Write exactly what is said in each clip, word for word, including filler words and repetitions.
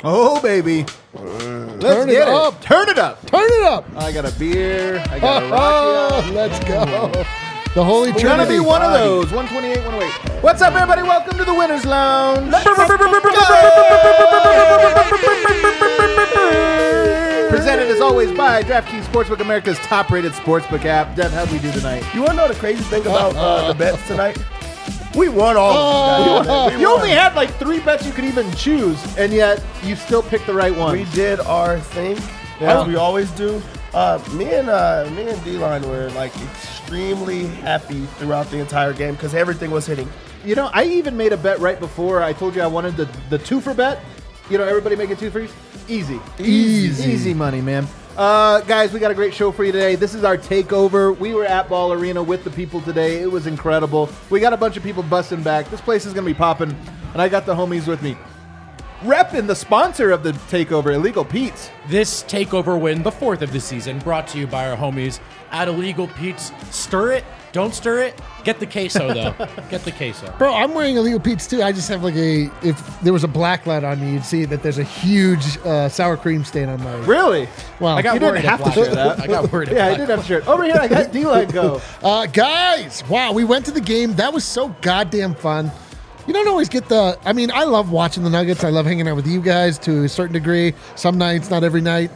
Oh, baby. Let's Turn get it it. up. Turn it up. Turn it up. I got a beer. I got a Rocky. Oh, let's go. The Holy We're Trinity. gonna be one of those. one twenty-eight, one oh eight. What's up, everybody? Welcome to the Winners Lounge. Presented as always by DraftKings Sportsbook, America's top-rated sportsbook app. Dev, how'd we do tonight? You want to know the crazy thing about uh, the bets tonight? We won all of them. Oh, you only had like three bets you could even choose, and yet you still picked the right one. We did our thing, Yeah. as we always do. Uh, me and uh, me and D-Line were like extremely happy throughout the entire game because everything was hitting. You know, I even made a bet right before. I told you I wanted the, the two-for bet. You know, everybody making two-fers? Easy. Easy. Easy money, man. Uh, guys, we got a great show for you today. This is our takeover. We were at Ball Arena with the people today. It was incredible. We got a bunch of people busting back. This place is going to be popping, and I got the homies with me. Repping the sponsor of the takeover, Illegal Pete's. This takeover win, the fourth of the season, brought to you by our homies at Illegal Pete's. Stir it, don't stir it. Get the queso though. Get the queso. Bro, I'm wearing Illegal Pete's too. I just have like a, if there was a black light on me, you'd see that there's a huge uh, sour cream stain on my. Really? Well, I got You didn't worried have if to black- share that. I got worried. if Yeah, I black- did have a shirt. Over here, I got D-Line go. Uh, guys, wow, we went to the game. That was so goddamn fun. You don't always get the. I mean, I love watching the Nuggets. I love hanging out with you guys to a certain degree. Some nights, not every night.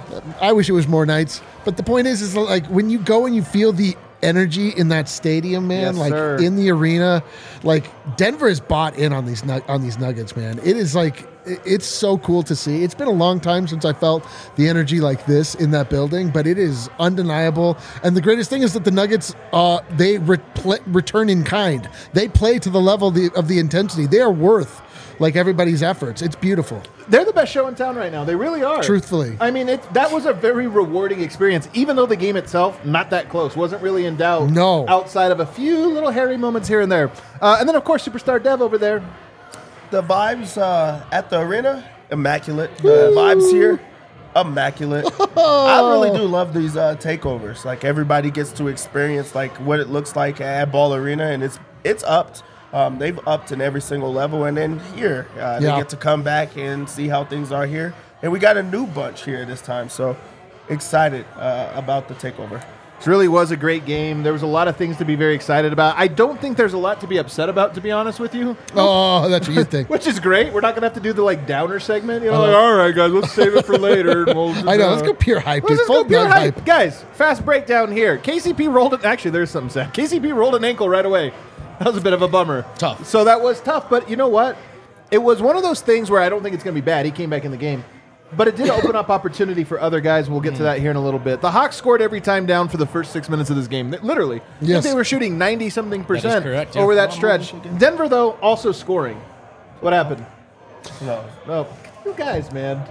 I wish it was more nights. But the point is, is like when you go and you feel the energy in that stadium, man, Yes, like sir. in the arena, like Denver is bought in on these nu- on these Nuggets, man. It is like it- it's so cool to see. It's been a long time since I felt the energy like this in that building, but it is undeniable. And the greatest thing is that the Nuggets, uh, they re- pl- return in kind. They play to the level of the, of the intensity. They are worth like everybody's efforts. It's beautiful. They're the best show in town right now. They really are. Truthfully. I mean, it, that was a very rewarding experience, even though the game itself, not that close, wasn't really in doubt. No. Outside of a few little hairy moments here and there. Uh, and then, of course, Superstar Dev over there. The vibes uh, at the arena, immaculate. The vibes here, immaculate. I really do love these uh, takeovers. Like everybody gets to experience like what it looks like at Ball Arena, and it's it's upped. Um, they've upped in every single level, and then here uh, they Yeah. get to come back and see how things are here. And we got a new bunch here this time, so excited uh, about the takeover. It really was a great game. There was a lot of things to be very excited about. I don't think there's a lot to be upset about, to be honest with you. Oh, that's what you think. Which is great. We're not going to have to do the like downer segment. You know, Uh-huh. like, all right, guys, let's save it for later. And we'll, I know. Let's go pure hype. Let's dude. just Full go pure blood hype. Guys, fast breakdown here. K C P rolled it. Actually, there's something sad. K C P rolled an ankle right away. That was a bit of a bummer. Tough. So that was tough. But you know what? It was one of those things where I don't think it's going to be bad. He came back in the game. But it did open up opportunity for other guys. We'll get to that here in a little bit. The Hawks scored every time down for the first six minutes of this game. Literally. Yes. They were shooting ninety-something percent correct, yeah. over that stretch. Denver, though, also scoring. What happened? No. Oh, you guys, man.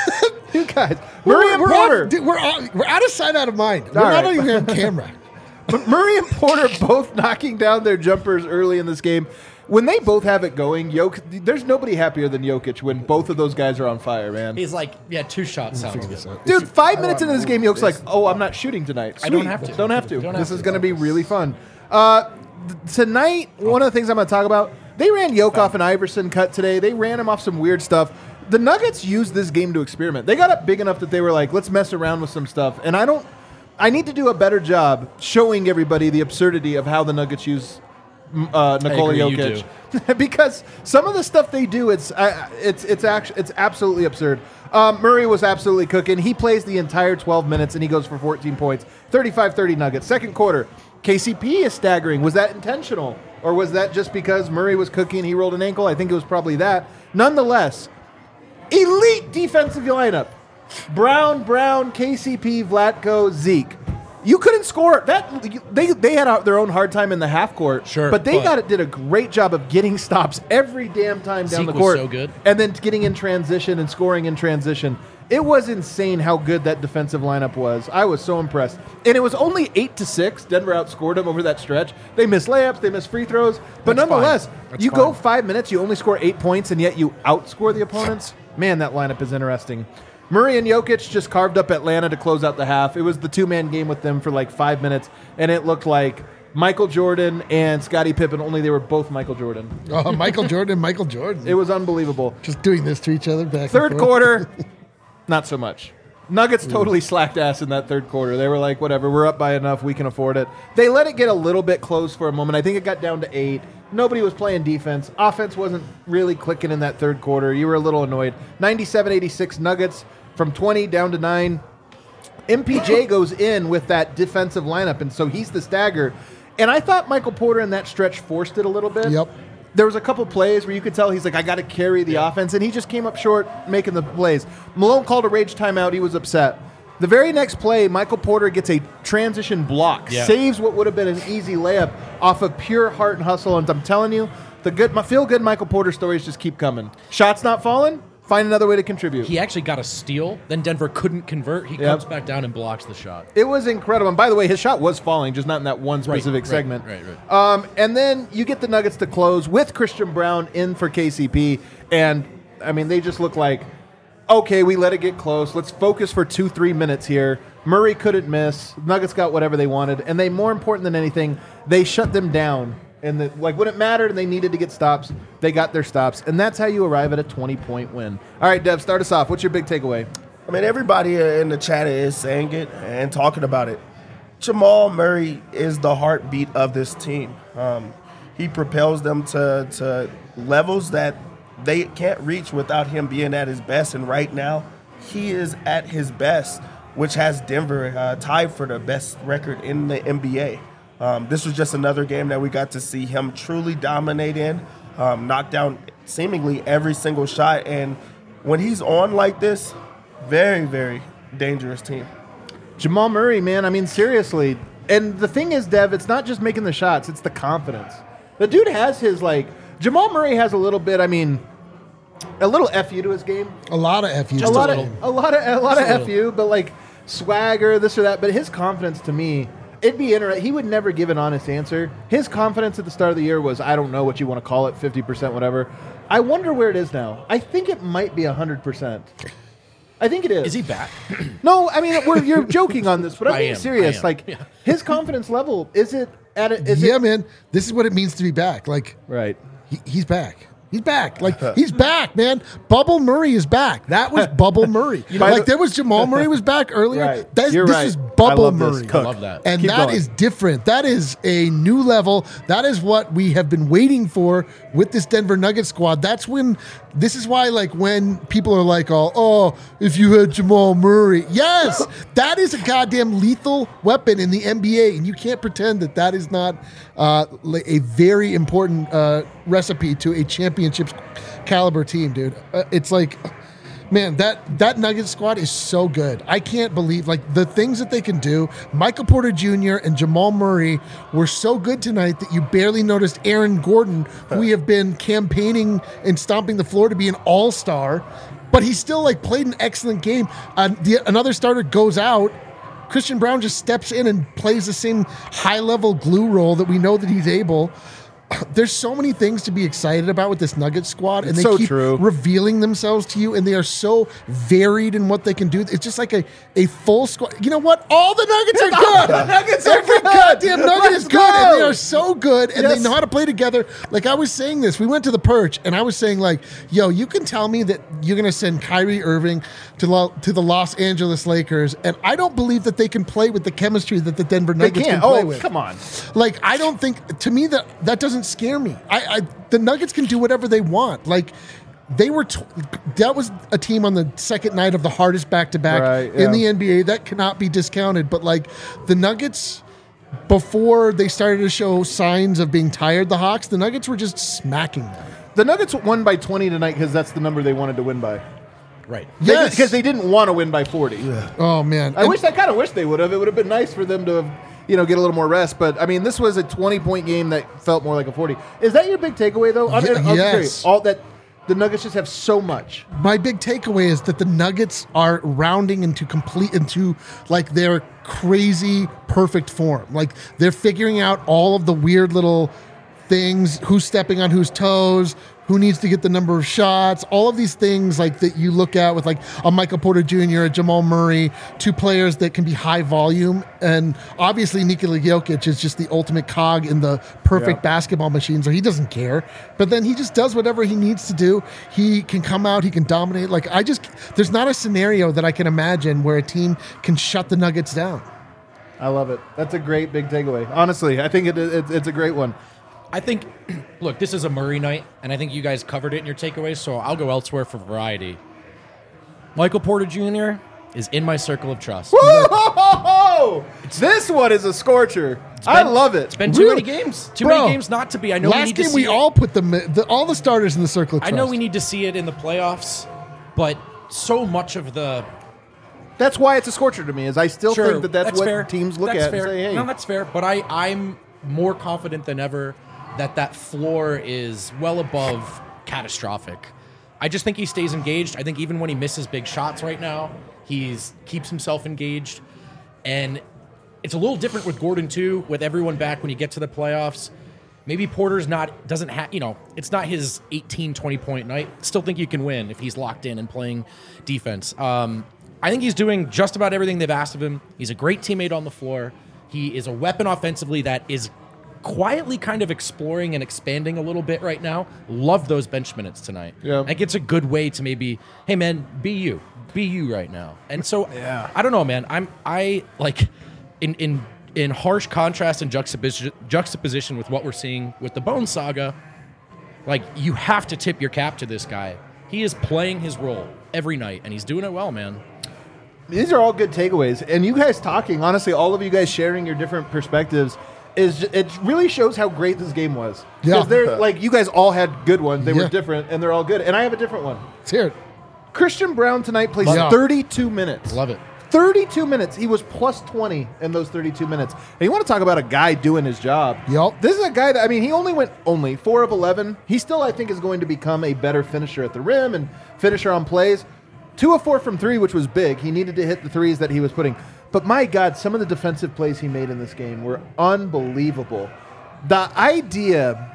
You guys. Murray We're, and we're, Porter. off, dude, we're, out, we're out of sight, out of mind. We're All not right. even on camera. But Murray and Porter both knocking down their jumpers early in this game. When they both have it going, Jok- there's nobody happier than Jokic when both of those guys are on fire, man. He's like, yeah, two shots sounds Figure good. this out. Dude, five minutes into this game, Jokic's like, oh, I'm not shooting tonight. I don't Sweet. have to. Don't have to. Don't this have is to. going to be really fun. Uh, th- tonight, one of the things I'm going to talk about, they ran Jokic off an Iverson cut today. They ran him off some weird stuff. The Nuggets used this game to experiment. They got up big enough that they were like, let's mess around with some stuff. And I don't, I need to do a better job showing everybody the absurdity of how the Nuggets use uh, Nikola agree, you Jokic. Because some of the stuff they do, it's uh, it's it's actually it's absolutely absurd. Um, Murray was absolutely cooking. He plays the entire twelve minutes and he goes for fourteen points, thirty-five thirty Nuggets. Second quarter, K C P is staggering. Was that intentional, or was that just because Murray was cooking? He rolled an ankle. I think it was probably that. Nonetheless, elite defensive lineup: Brown, Brown, K C P, Vlatko, Zeke. You couldn't score that. They they had a, their own hard time in the half court, Sure, but they but- got it. Did a great job of getting stops every damn time down Zeke the was court, so good. and then getting in transition and scoring in transition. It was insane how good that defensive lineup was. I was so impressed, and it was only eight to six. Denver outscored them over that stretch. They missed layups, they missed free throws, but That's nonetheless, fine. That's you go fine. five minutes, you only score eight points, and yet you outscore the opponents. Man, that lineup is interesting. Murray and Jokic just carved up Atlanta to close out the half. It was the two-man game with them for like five minutes, and it looked like Michael Jordan and Scottie Pippen, only they were both Michael Jordan. Oh, Michael Jordan and Michael Jordan. It was unbelievable. Just doing this to each other back Third and forth. quarter, not so much. Nuggets totally slacked ass in that third quarter. They were like, whatever, we're up by enough, we can afford it. They let it get a little bit close for a moment. I think it got down to eight. Nobody was playing defense. Offense wasn't really clicking in that third quarter. You were a little annoyed. ninety-seven eighty-six Nuggets from twenty down to nine. M P J goes in with that defensive lineup, and so he's the stagger. And I thought Michael Porter in that stretch forced it a little bit. Yep. There was a couple plays where you could tell he's like, I got to carry the yeah. offense, and he just came up short making the plays. Malone called a rage timeout. He was upset. The very next play, Michael Porter gets a transition block, yeah. saves what would have been an easy layup off of pure heart and hustle. And I'm telling you, the good, my feel-good Michael Porter stories just keep coming. Shots not falling, find another way to contribute. He actually got a steal. Then Denver couldn't convert. He yep. comes back down and blocks the shot. It was incredible. And by the way, his shot was falling, just not in that one specific right, segment. Right, right, right. Um, and then you get the Nuggets to close with Christian Brown in for K C P. And, I mean, they just look like, okay, we let it get close. Let's focus for two, three minutes here. Murray couldn't miss. Nuggets got whatever they wanted. And they, more important than anything, they shut them down. And the, like when it mattered and they needed to get stops, they got their stops. And that's how you arrive at a twenty-point win. All right, Dev, start us off. What's your big takeaway? I mean, everybody in the chat is saying it and talking about it. Jamal Murray is the heartbeat of this team. Um, he propels them to, to levels that they can't reach without him being at his best. And right now, he is at his best, which has Denver uh, tied for the best record in the N B A. Um, this was just another game that we got to see him truly dominate in, um, knock down seemingly every single shot. And when he's on like this, very, very dangerous team. Jamal Murray, man, I mean, seriously. And the thing is, Dev, it's not just making the shots, it's the confidence. The dude has his, like, Jamal Murray has a little bit, I mean, a little F U to his game. A lot of F U. Just a, lot of, a lot of a lot just of F U, but like swagger, this or that. But his confidence to me, it'd be interesting. He would never give an honest answer. His confidence at the start of the year was, I don't know what you want to call it, fifty percent, whatever. I wonder where it is now. I think it might be one hundred percent. I think it is. Is he back? No, I mean, we're, you're joking on this, but I'm I being am, serious. I am. Like, Yeah. his confidence level, is it at a, is yeah, it? man. This is what it means to be back. Like, Right. he, he's back. He's back. Like, he's back, man. Bubble Murray is back. That was Bubble Murray. Like, there was Jamal Murray was back earlier. Right. That's, You're this right. is I Bubble love this. Murray. Cook. I love that. And Keep that going. is different. That is a new level. That is what we have been waiting for with this Denver Nuggets squad. That's when, this is why, like, when people are like, oh, oh if you had Jamal Murray. Yes, that is a goddamn lethal weapon in the N B A. And you can't pretend that that is not uh, a very important uh, recipe to a championship caliber team, dude. Uh, it's like, man, that that Nuggets squad is so good. I can't believe, like, the things that they can do. Michael Porter Junior and Jamal Murray were so good tonight that you barely noticed Aaron Gordon, who we have been campaigning and stomping the floor to be an all-star, but he still, like, played an excellent game. Uh, the, another starter goes out. Christian Brown just steps in and plays the same high-level glue role that we know that he's able. There's so many things to be excited about with this Nuggets squad, and It's they so keep true. revealing themselves to you, and they are so varied in what they can do. It's just like a, a full squad. You know what? All the Nuggets are good. The Nuggets are Every good. goddamn Nugget Let's is good, and go. they are so good, and Yes. they know how to play together. Like, I was saying this. We went to the Perch, and I was saying, like, yo, you can tell me that you're going to send Kyrie Irving to, Lo- to the Los Angeles Lakers, and I don't believe that they can play with the chemistry that the Denver They Nuggets can't. can play Oh, with. come on. Like, I don't think, to me, that that doesn't scare me. I, I the Nuggets can do whatever they want. Like, they were, t- that was a team on the second night of the hardest back-to-back Right, in yeah. the N B A. That cannot be discounted. But, like, the Nuggets, before they started to show signs of being tired, the Hawks, the Nuggets were just smacking them. The Nuggets won by twenty tonight because that's the number they wanted to win by. Right. Yes. Because they didn't want to win by forty. Oh, man. I And- wish I kind of wish they would have. It would have been nice for them to have, you know, get a little more rest. But I mean, this was a twenty-point game that felt more like a forty. Is that your big takeaway, though? I'm, Ye- I'm yes. serious. All that the Nuggets just have so much. My big takeaway is that the Nuggets are rounding into complete into like their crazy perfect form. Like, they're figuring out all of the weird little things, who's stepping on whose toes, who needs to get the number of shots, all of these things like that you look at with like a Michael Porter Junior, a Jamal Murray, two players that can be high volume. And obviously Nikola Jokic is just the ultimate cog in the perfect Yeah. basketball machine, so he doesn't care. But then he just does whatever he needs to do. He can come out, he can dominate. Like I just, there's not a scenario that I can imagine where a team can shut the Nuggets down. I love it. That's a great big takeaway. Honestly, I think it, it, it's a great one. I think, look, this is a Murray night, and I think you guys covered it in your takeaways, so I'll go elsewhere for variety. Michael Porter Junior is in my circle of trust. Whoa! This one is a scorcher. I been- love it. It's been too Really? many games. Too Bro, many games not to be. I know we Last need to game see we it. all put the, the all the starters in the circle of I trust. know we need to see it in the playoffs, but so much of the That's why it's a scorcher to me. Is I still Sure, think that that's, what fair. teams look That's at fair. and say, "Hey, No, that's fair. But I, I'm more confident than ever that that floor is well above catastrophic. I just think he stays engaged. I think even when he misses big shots right now, he's keeps himself engaged. And it's a little different with Gordon too, with everyone back when you get to the playoffs. Maybe Porter's not doesn't have, you know, it's not his eighteen, twenty point night. Still think you can win if he's locked in and playing defense. Um, I think he's doing just about everything they've asked of him. He's a great teammate on the floor. He is a weapon offensively that is quietly kind of exploring and expanding a little bit right now. Love those bench minutes tonight. Yeah. I think it's a good way to maybe, hey man, be you. Be you right now. And so Yeah. I don't know, man. I'm I like in in in harsh contrast and juxtaposition juxtaposition with what we're seeing with the Bone Saga, like you have to tip your cap to this guy. He is playing his role every night and he's doing it well, man. these are all good takeaways." And you guys talking, honestly, all of you guys sharing your different perspectives is ju- it really shows how great this game was. Yeah. Because they're like you guys all had good ones. They Yeah. were different, and they're all good. And I have a different one. Let's hear it. Christian Brown tonight plays Love it. thirty-two minutes. Love it. thirty-two minutes. He was plus twenty in those thirty-two minutes. And you want to talk about a guy doing his job. Yup. This is a guy that, I mean, he only went only four of eleven. He still, I think, is going to become a better finisher at the rim and finisher on plays. Two of four from three, which was big. He needed to hit the threes that he was putting. But my God, some of the defensive plays he made in this game were unbelievable. The idea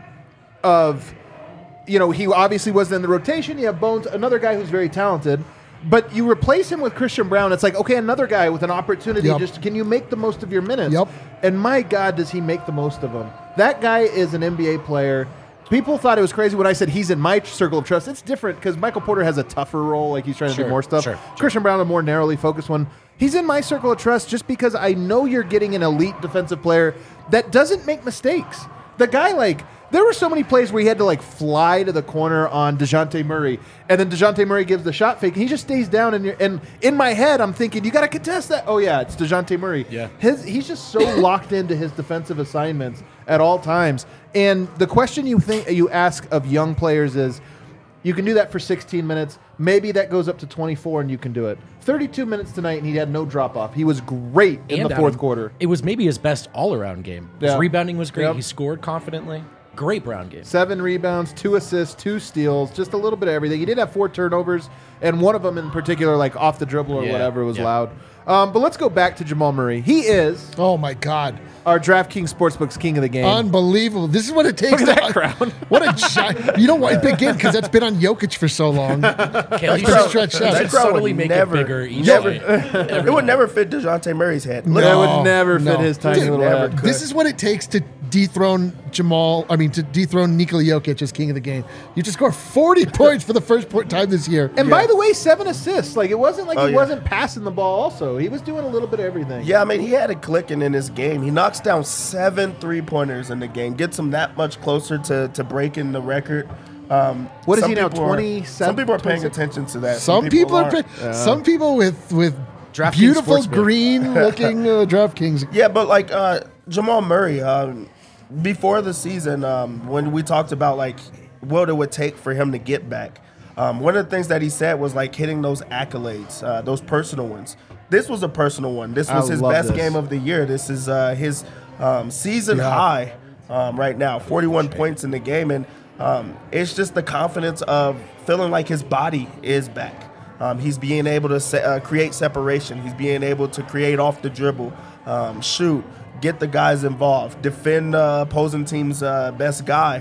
of, you know, he obviously wasn't in the rotation. You have Bones, another guy who's very talented. But you replace him with Christian Brown. It's like, okay, another guy with an opportunity. Yep. Just can you make the most of your minutes? Yep. And my God, does he make the most of them? That guy is an N B A player. People thought it was crazy when I said he's in my circle of trust. It's different because Michael Porter has a tougher role, like he's trying to Sure, do more stuff. sure, sure. Christian Brown, a more narrowly focused one. He's in my circle of trust just because I know you're getting an elite defensive player that doesn't make mistakes. The guy, like, there were so many plays where he had to, like, fly to the corner on DeJounte Murray, and then DeJounte Murray gives the shot fake, and he just stays down, and, you're, and in my head, I'm thinking, you got to contest that. Oh, yeah, it's DeJounte Murray. Yeah. His, he's just so locked into his defensive assignments at all times. And the question you think you ask of young players is, you can do that for sixteen minutes. Maybe that goes up to twenty-four, and you can do it. thirty-two minutes tonight, and he had no drop-off. He was great in And the fourth Adam, quarter. It was maybe his best all-around game. His Yeah. rebounding was great. Yep. He scored confidently. Great Brown game. Seven rebounds, two assists, two steals, just a little bit of everything. He did have four turnovers, and one of them in particular, like off the dribble or Yeah, whatever, was yeah. loud. Um, but let's go back to Jamal Murray. He is Oh my God. our DraftKings Sportsbooks king of the game. Unbelievable. This is what it takes Look at to that crown. What a giant. You know what? Big game because that's been on Jokic for so long. Kale, you Crown- should, stretch you out. should That crown subtly would make never- it bigger each never- night. It would never fit DeJounte Murray's head. Look, that No, would never fit no. his tiny Dude, little never head. could. This is what it takes to dethrone Jamal. I mean, to dethrone Nikola Jokic as king of the game. You just score forty points for the first po- time this year. And by the way, seven assists. Like, it wasn't like Oh, he yeah. wasn't passing the ball also. He was doing a little bit of everything. Yeah, I mean, he had it clicking in his game. He knocks down seven three-pointers in the game, gets him that much closer to, to breaking the record. Um, What is some he now, people are- twenty-seven, Some people are paying twenty-six? attention to that. some people are. aren't. Pay, Some people with with DraftKings beautiful Sportsbook. green looking uh, DraftKings. Yeah, but like uh, Jamal Murray, um, before the season, um, when we talked about like what it would take for him to get back, um, one of the things that he said was like hitting those accolades, uh, those personal ones. This was a personal one. This I was his love best this. game of the year. This is uh, his um, season Yeah. high um, right now, forty-one points in the game, and um, it's just the confidence of feeling like his body is back. Um, he's being able to se- uh, create separation. He's being able to create off the dribble, um, shoot, get the guys involved, defend uh, opposing team's uh, best guy.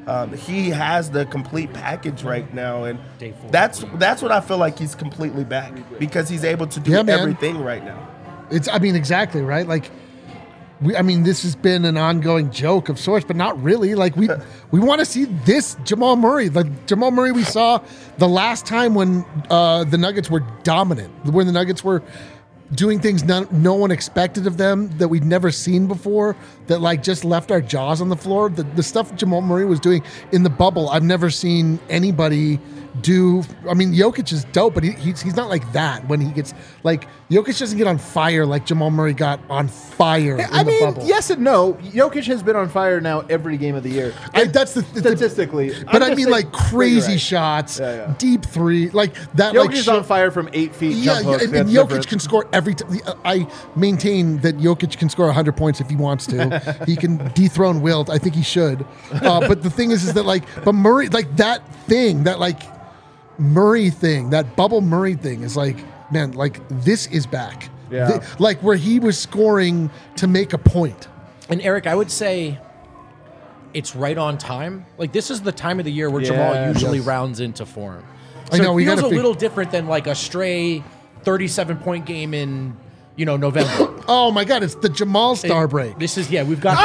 Um, he has the complete package right now, and Day four. that's that's what I feel like he's completely back because he's able to do Yeah, man. everything right now. It's, I mean, exactly, right? Like, we, I mean, this has been an ongoing joke of sorts, but not really. Like, we we want to see this Jamal Murray. Like, Jamal Murray we saw the last time when uh, the Nuggets were dominant, when the Nuggets were doing things no, no one expected of them, that we'd never seen before, that, like, just left our jaws on the floor. The, the stuff Jamal Murray was doing in the bubble, I've never seen anybody do. I mean, Jokic is dope, but he, he's, he's not like that when he gets, like, Jokic doesn't get on fire like Jamal Murray got on fire in I the mean, bubble. yes and no. Jokic has been on fire now every game of the year. I, that's the, the Statistically. But I'm I just mean, saying- like, crazy Right. shots, Yeah, yeah. deep three, like that. Jokic like is shit- on fire from eight feet. Yeah, jump yeah, hooks. and, and That's Jokic different. can score every time. I maintain that Jokic can score one hundred points if he wants to. He can dethrone Wilt. I think he should. Uh, but the thing is, is that, like, but Murray, like, that thing, that, like, Murray thing, that bubble Murray thing is like, man, like, this is back. Yeah. Th- like, where he was scoring to make a point. And Eric, I would say it's right on time. Like, this is the time of the year where Yeah, Jamal usually yes. rounds into form. I So know, it we feels gotta a fig- little different than like a stray thirty-seven point game in, you know, November. Oh my God, it's the Jamal Star break. This is, yeah, we've got.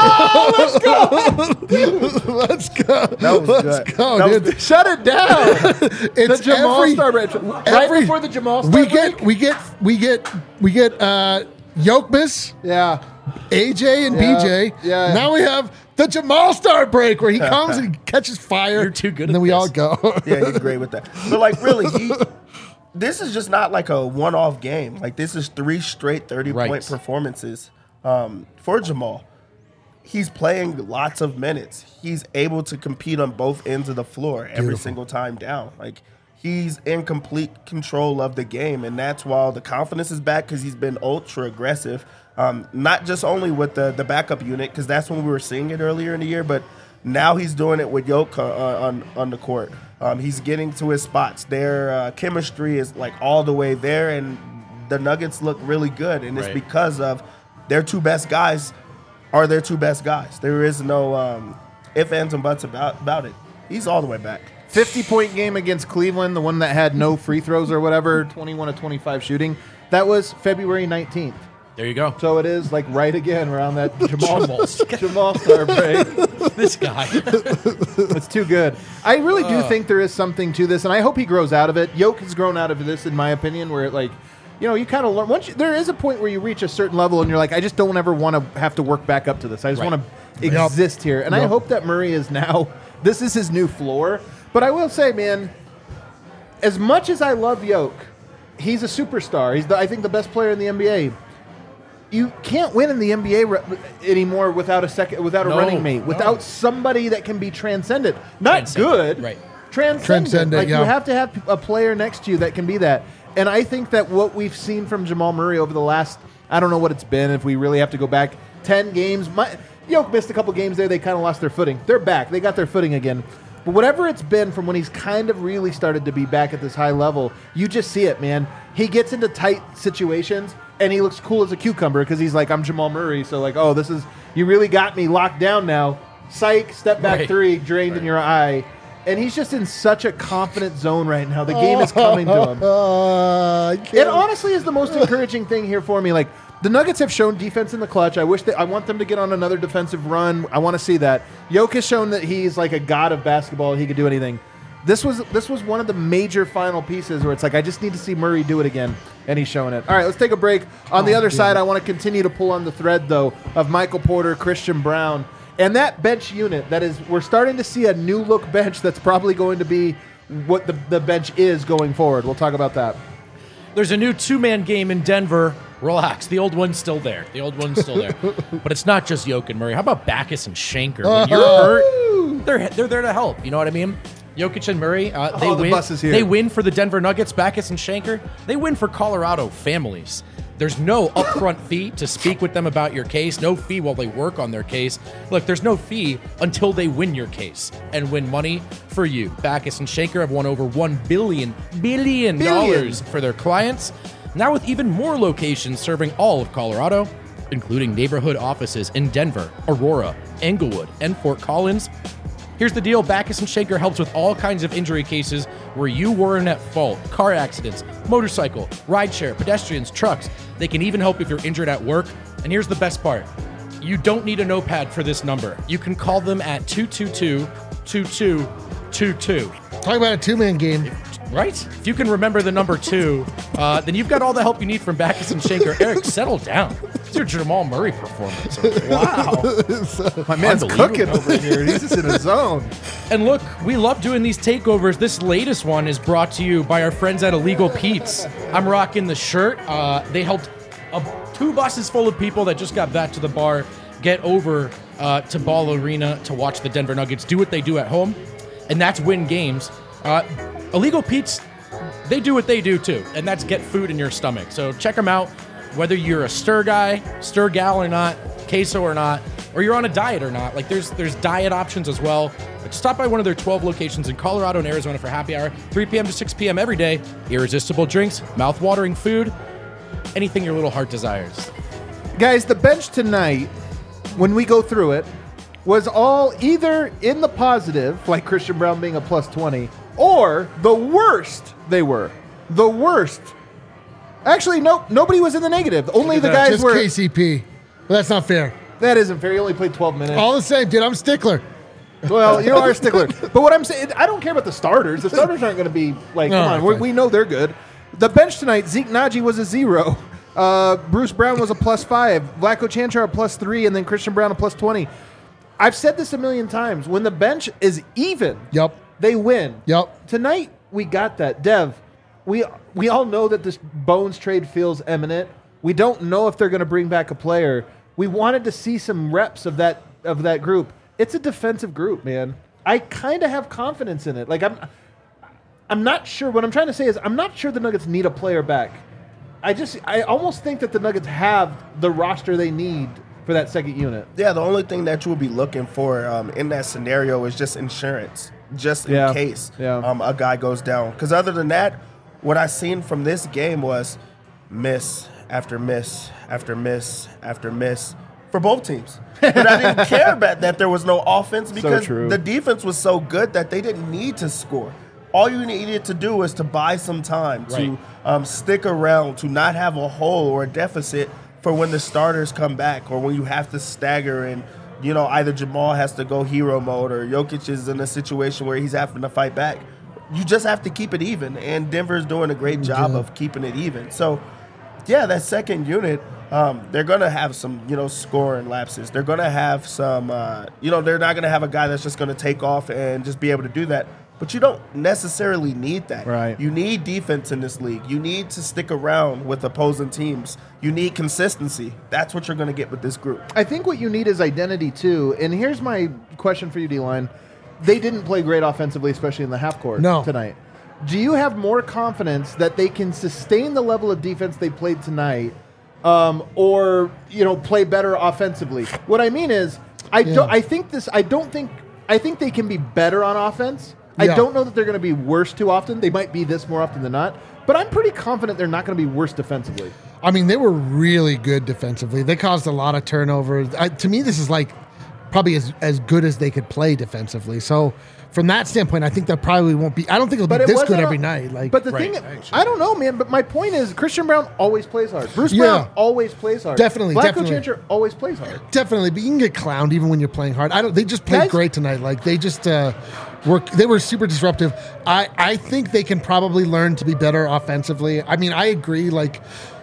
Let's go. That was Let's good. go, That was dude. Shut it down. It's the Jamal every- Star break. Right every- before the Jamal Star we get, break? we get, we get, we get, uh, Jokbis, Yeah. A J, and Yeah, B J. yeah. Now we have the Jamal Star break where he comes and he catches fire. You're too good And at then we this. all go. Yeah, he's great with that. But, like, really, he. This is just not like a one-off game. Like, this is three straight thirty-point Right. performances um, for Jamal. He's playing lots of minutes. He's able to compete on both ends of the floor every Beautiful. single time down. Like, he's in complete control of the game, and that's why the confidence is back because he's been ultra aggressive. Um, not just only with the the backup unit, because that's when we were seeing it earlier in the year, but now he's doing it with Yoke uh, on on the court. Um, he's getting to his spots. Their uh, chemistry is like all the way there, and the Nuggets look really good. And it's Right. because of their two best guys are their two best guys. There is no um, ifs, ands, and buts about about it. He's all the way back. fifty-point game against Cleveland, the one that had no free throws or whatever, twenty-one to twenty-five shooting. That was February nineteenth. There you go. So it is, like, right again around that Jamal, Jamal. Jamal Star break. This guy. It's too good. I really do think there is something to this, and I hope he grows out of it. Yoke has grown out of this, in my opinion, where, it, like, you know, you kind of learn. Once you, there is a point where you reach a certain level, and you're like, I just don't ever want to have to work back up to this. I just Right. want to exist here, and I Yep. hope that Murray is now. This is his new floor. But I will say, man, as much as I love Yoke, he's a superstar. He's, the, I think, the best player in the N B A. You can't win in the N B A re- anymore without a second, without a No, running mate, no. without somebody that can be transcendent. Not Transcendent, good, right. Transcendent. Transcendent, Like, yeah. you have to have a player next to you that can be that. And I think that what we've seen from Jamal Murray over the last, I don't know what it's been, if we really have to go back ten games. My, Yoke missed a couple games there. They kind of lost their footing. They're back. They got their footing again. But whatever it's been from when he's kind of really started to be back at this high level, you just see it, man. He gets into tight situations, and he looks cool as a cucumber because he's like, I'm Jamal Murray. So, like, oh, this is, you really got me locked down now. Psych, step back Right. three, drained in your eye. And he's just in such a confident zone right now. The game is coming to him. Uh, I It can't- honestly is the most encouraging thing here for me. Like, the Nuggets have shown defense in the clutch. I wish that I want them to get on another defensive run. I want to see that. Jokic has shown that he's like a god of basketball. He could do anything. This was this was one of the major final pieces where it's like I just need to see Murray do it again, and he's showing it. All right, let's take a break. On the Oh, other dude. side, I want to continue to pull on the thread though of Michael Porter, Christian Brown, and that bench unit. That is, we're starting to see a new look bench that's probably going to be what the, the bench is going forward. We'll talk about that. There's a new two-man game in Denver. Relax. The old one's still there. The old one's still there. But it's not just Jokic and Murray. How about Backus and Shanker? When you're hurt, they're, they're there to help. You know what I mean? Jokic and Murray, uh, they Oh, the win. bus is here. They win for the Denver Nuggets, Backus and Shanker. They win for Colorado families. There's no upfront fee to speak with them about your case. No fee while they work on their case. Look, there's no fee until they win your case and win money for you. Backus and Shanker have won over one billion billion dollars for their clients. Now with even more locations serving all of Colorado, including neighborhood offices in Denver, Aurora, Englewood, and Fort Collins. Here's the deal. Backus and Schenker helps with all kinds of injury cases where you weren't at fault. Car accidents, motorcycle, rideshare, pedestrians, trucks. They can even help if you're injured at work. And here's the best part. You don't need a notepad for this number. You can call them at two two two, two two two two. Talk about a two-man game. Right? If you can remember the number two, uh, then you've got all the help you need from Backus and Schenker. Eric, settle down. It's your Jamal Murray performance. Wow. My man's Unbelievable. cooking over here. He's just in his zone. And look, we love doing these takeovers. This latest one is brought to you by our friends at Illegal Pete's. I'm rocking the shirt. Uh, they helped a, two buses full of people that just got back to the bar get over uh, to Ball Arena to watch the Denver Nuggets do what they do at home, and that's win games. Uh, Illegal Pete's, they do what they do too, and that's get food in your stomach. So check them out, whether you're a stir guy, stir gal or not, queso or not, or you're on a diet or not. Like there's there's diet options as well. Like, stop by one of their twelve locations in Colorado and Arizona for happy hour, three p.m. to six p.m. every day. Irresistible drinks, mouth-watering food, anything your little heart desires. Guys, the bench tonight, when we go through it, was all either in the positive, like Christian Braun being a plus twenty, or the worst they were. The worst. Actually, no, nobody was in the negative. Only the guys Just were. K C P. But that's not fair. That isn't fair. He only played twelve minutes. All the same, dude, I'm a stickler. Well, you are a stickler. But what I'm saying, I don't care about the starters. The starters aren't going to be like, No, come on, we, fine. we know they're good. The bench tonight, Zeke Naji was a zero. Uh, Bruce Brown was a plus five. Vlatko Chanchar a plus three, and then Christian Braun a plus twenty. I've said this a million times. When the bench is even, Yep. they win. Yep. Tonight, we got that. Dev, we we all know that this Bones trade feels imminent. We don't know if they're going to bring back a player. We wanted to see some reps of that of that group. It's a defensive group, man. I kind of have confidence in it. Like I'm I'm not sure. What I'm trying to say is I'm not sure the Nuggets need a player back. I just I almost think that the Nuggets have the roster they need for that second unit. Yeah, the only thing that you would be looking for um, in that scenario is just insurance, just in Yeah. case Yeah. um, a guy goes down. Because other than that, what I seen from this game was miss after miss after miss after miss for both teams. But I didn't care about that there was no offense because true. the defense was so good that they didn't need to score. All you needed to do was to buy some time, Right. to um, stick around, to not have a hole or a deficit for when the starters come back or when you have to stagger and, you know, either Jamal has to go hero mode or Jokic is in a situation where he's having to fight back. You just have to keep it even, and Denver's doing a great job of keeping it even. So, yeah, that second unit, um, they're going to have some, you know, scoring lapses. They're going to have some, uh, you know, they're not going to have a guy that's just going to take off and just be able to do that. But you don't necessarily need that. Right. You need defense in this league. You need to stick around with opposing teams. You need consistency. That's what you're going to get with this group. I think what you need is identity too. And here's my question for you, D-Line. They didn't play great offensively, especially in the half court No. tonight. Do you have more confidence that they can sustain the level of defense they played tonight, um, or you know, play better offensively? What I mean is, I Yeah. don't. I think this. I don't think. I think they can be better on offense. I Yeah. don't know that they're going to be worse too often. They might be this more often than not, but I'm pretty confident they're not going to be worse defensively. I mean, they were really good defensively. They caused a lot of turnovers. I, to me, this is like probably as, as good as they could play defensively. So from that standpoint, I think that probably won't be. I don't think it'll But be it this wasn't good a- every night. Like, But the Right, thing, actually. I don't know, man. But my point is, Christian Braun always plays hard. Bruce Yeah. Brown always plays hard. Definitely, Vlatko definitely. Chanchar always plays hard. definitely, but you can get clowned even when you're playing hard. I don't. They just played Guys- great tonight. Like they just uh, were. They were super disruptive. I I think they can probably learn to be better offensively. I mean, I agree. Like,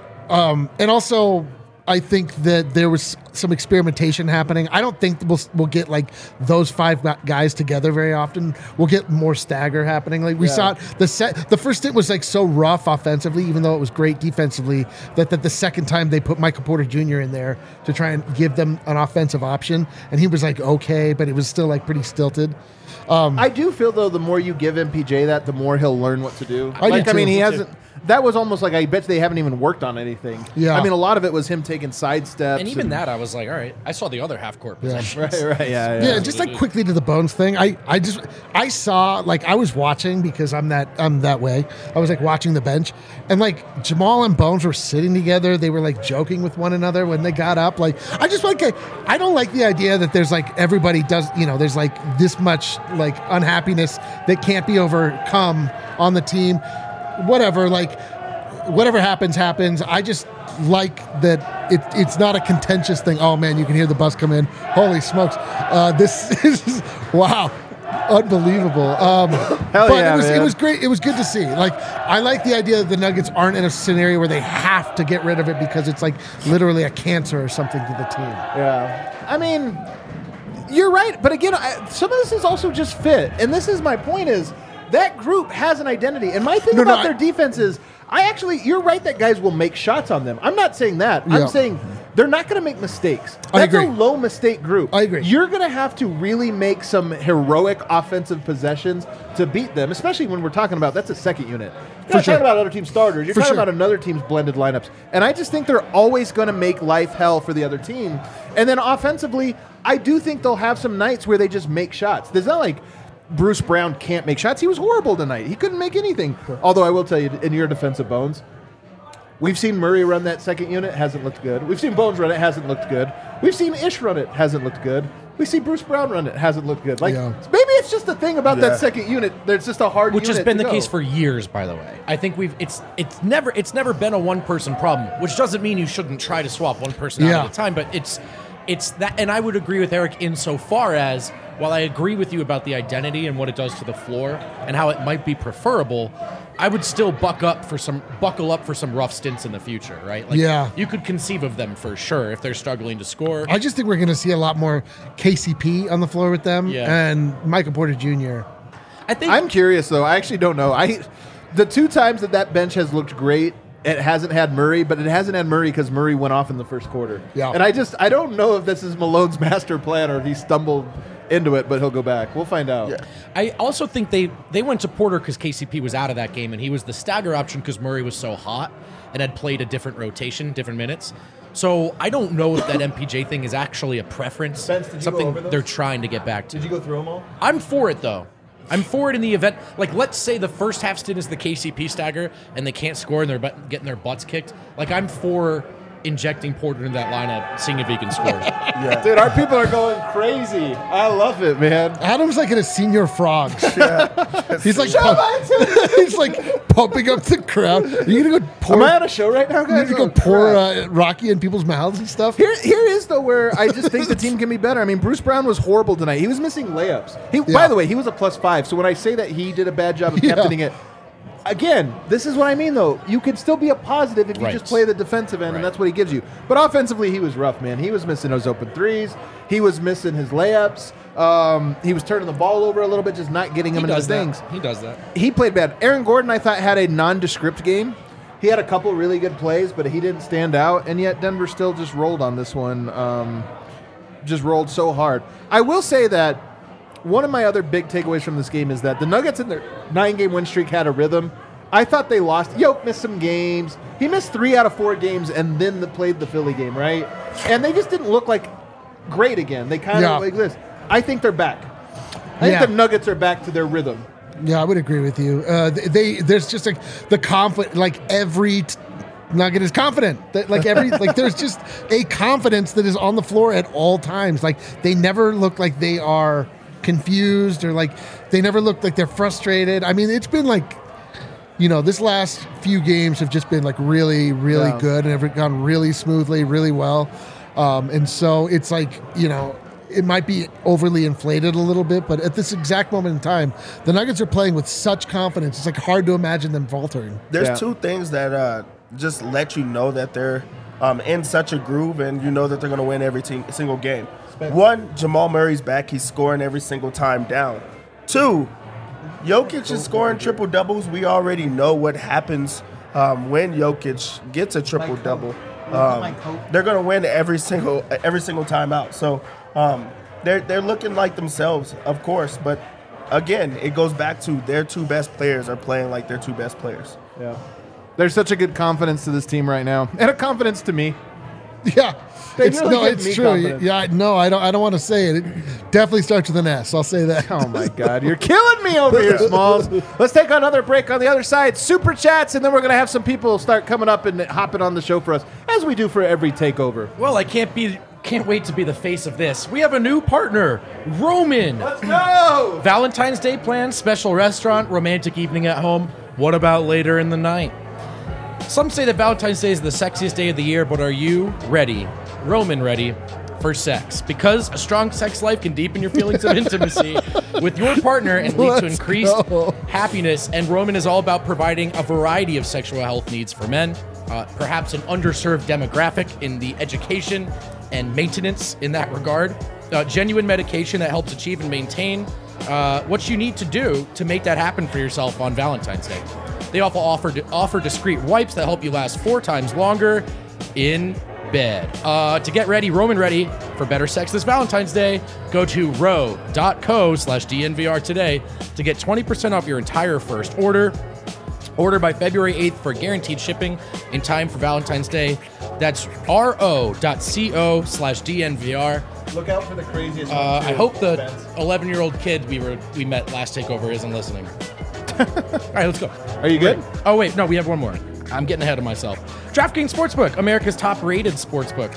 um, and also. I think that there was some experimentation happening. I don't think we'll, we'll get like those five gu- guys together very often. We'll get more stagger happening. Like we Yeah. saw it, the set. The first stint was like so rough offensively, even though it was great defensively. That that the second time they put Michael Porter Junior in there to try and give them an offensive option, and he was like okay, but it was still like pretty stilted. I do feel though, the more you give M P J that, the more he'll learn what to do. I do like, I too. mean, he Me hasn't. That was almost like I bet they haven't even worked on anything. Yeah. I mean, a lot of it was him taking taking side steps. And even that, I was like, all right. I saw the other half court possessions. Right, right, yeah, Yeah, yeah. just like quickly to the Bones thing. I, I just I saw like I was watching because I'm that I'm that way. I was like watching the bench, and like Jamal and Bones were sitting together. They were like joking with one another when they got up. Like I just like I don't like the idea that there's like everybody does you know there's like this much like unhappiness that can't be overcome on the team. Whatever, like whatever happens happens. I just like that it, it's not a contentious thing. Oh man, you can hear the bus come in. Holy smokes. Uh, this is, wow, unbelievable. Um, Hell but yeah, it was, man. it was great. It was good to see. Like, I like the idea that the Nuggets aren't in a scenario where they have to get rid of it because it's like literally a cancer or something to the team. Yeah. I mean, you're right. But again, I, some of this is also just fit. And this is my point is that group has an identity. And my thing No, no, about I- their defense is I actually, you're right that guys will make shots on them. I'm not saying that. Yeah. I'm saying they're not going to make mistakes. That's I agree. a low mistake group. I agree. You're going to have to really make some heroic offensive possessions to beat them, especially when we're talking about that's a second unit. You're not sure. talking about other team starters. You're For talking sure. about another team's blended lineups. And I just think they're always going to make life hell for the other team. And then offensively, I do think they'll have some nights where they just make shots. There's not like Bruce Brown can't make shots. He was horrible tonight. He couldn't make anything. Although I will tell you, in your defensive Bones, we've seen Murray run that second unit, hasn't looked good. We've seen Bones run it, hasn't looked good. We've seen Ish run it, hasn't looked good. We see Bruce Brown run it, hasn't looked good. Like Yeah. maybe it's just a thing about Yeah. that second unit. There's just a hard Which has unit been to the go. case for years, by the way. I think we've it's it's never it's never been a one person problem, which doesn't mean you shouldn't try to swap one person Yeah. out at a time, but it's it's that and I would agree with Eric insofar as while I agree with you about the identity and what it does to the floor and how it might be preferable, I would still buck up for some buckle up for some rough stints in the future, right? Like Yeah. you could conceive of them for sure if they're struggling to score. I just think we're going to see a lot more K C P on the floor with them Yeah. and Michael Porter Junior I think I'm curious though. I actually don't know. I the two times that that bench has looked great, it hasn't had Murray, but it hasn't had Murray because Murray went off in the first quarter. Yeah. And I just I don't know if this is Malone's master plan or if he stumbled into it, but he'll go back. We'll find out. Yeah. I also think they, they went to Porter because K C P was out of that game, and he was the stagger option because Murray was so hot and had played a different rotation, different minutes. So I don't know if that M P J thing is actually a preference, Spence, did you go something over those? they're trying to get back to. Did you go through them all? I'm for it, though. I'm for it in the event. Like, let's say the first half stint is the K C P stagger, and they can't score, and they're but- getting their butts kicked. Like, I'm for injecting Porter into that lineup, seeing if he can score. Yeah. Dude, our people are going crazy. I love it, man. Adam's like in a senior frogs. He's like Shut pump- up. he's like pumping up the crowd. Are you gonna go pour? Am I on a show right now, you guys? need to go Oh, pour crap. uh, Rocky in people's mouths and stuff. Here, here is though where I just think the team can be better. I mean, Bruce Brown was horrible tonight. He was missing layups. He, by Yeah. the way, he was a plus five. So when I say that he did a bad job of Yeah. captaining it, again, this is what I mean though. You can still be a positive if you Right. just play the defensive end, Right. and that's what he gives you. But offensively, he was rough, man. He was missing those open threes. He was missing his layups. Um, he was turning the ball over a little bit, just not getting he him into does the that. things. He does that. He played bad. Aaron Gordon, I thought, had a nondescript game. He had a couple really good plays, but he didn't stand out. And yet Denver still just rolled on this one. Um, just rolled so hard. I will say that one of my other big takeaways from this game is that the Nuggets in their nine-game win streak had a rhythm. I thought they lost. Yoke missed some games. He missed three out of four games and then the, played the Philly game, right? And they just didn't look like great again. They kind Yeah. of like this. I think they're back. I Yeah. think the Nuggets are back to their rhythm. Yeah, I would agree with you. Uh, they, they there's just like the confident, like every t- Nugget is confident. That like every like there's just a confidence that is on the floor at all times. Like they never look like they are confused or like they never look like they're frustrated. I mean, it's been like, you know, this last few games have just been like really, really Yeah. good and have gone really smoothly, really well. Um, and so it's like, you know, it might be overly inflated a little bit, but at this exact moment in time, the Nuggets are playing with such confidence. It's like hard to imagine them faltering. There's Yeah. two things that uh, just let you know that they're um, in such a groove, and you know that they're going to win every te- single game. One, Jamal Murray's back; he's scoring every single time down. Two, Jokic is scoring triple doubles. We already know what happens um, when Jokic gets a triple double. Um, they're going to win every single every single time out. So um, they're they're looking like themselves, of course, but. Again, it goes back to their two best players are playing like their two best players. Yeah. There's such a good confidence to this team right now, and a confidence to me. Yeah. They It's, really no, give it's me true. confidence. Yeah, no, I don't. I don't want to say it. It definitely starts with an S. I'll say that. Oh my God, you're killing me over here, Smalls. Let's take another break on the other side. Super chats, and then we're gonna have some people start coming up and hopping on the show for us, as we do for every takeover. Well, I can't be can't wait to be the face of this. We have a new partner, Roman. Let's go. Valentine's Day plans, special restaurant, romantic evening at home. What about later in the night? Some say that Valentine's Day is the sexiest day of the year, but are you ready, Roman ready, for sex? Because a strong sex life can deepen your feelings of intimacy with your partner and lead to Let's increased go. happiness. And Roman is all about providing a variety of sexual health needs for men, uh, perhaps an underserved demographic in the education and maintenance in that regard. Uh, genuine medication that helps achieve and maintain uh, what you need to do to make that happen for yourself on Valentine's Day. They also offer offer discreet wipes that help you last four times longer in bed. Uh, to get ready, Roman ready for better sex this Valentine's Day, go to ro.co slash DNVR today to get twenty percent off your entire first order. Order by February eighth for guaranteed shipping in time for Valentine's Day. That's ro.co slash DNVR. Look out for the craziest. Uh, one, too. I hope the Spence. eleven-year-old kid we were we met last takeover isn't listening. All right, let's go. Are you good? Oh, wait, no, we have one more. I'm getting ahead of myself. DraftKings Sportsbook, America's top-rated sportsbook,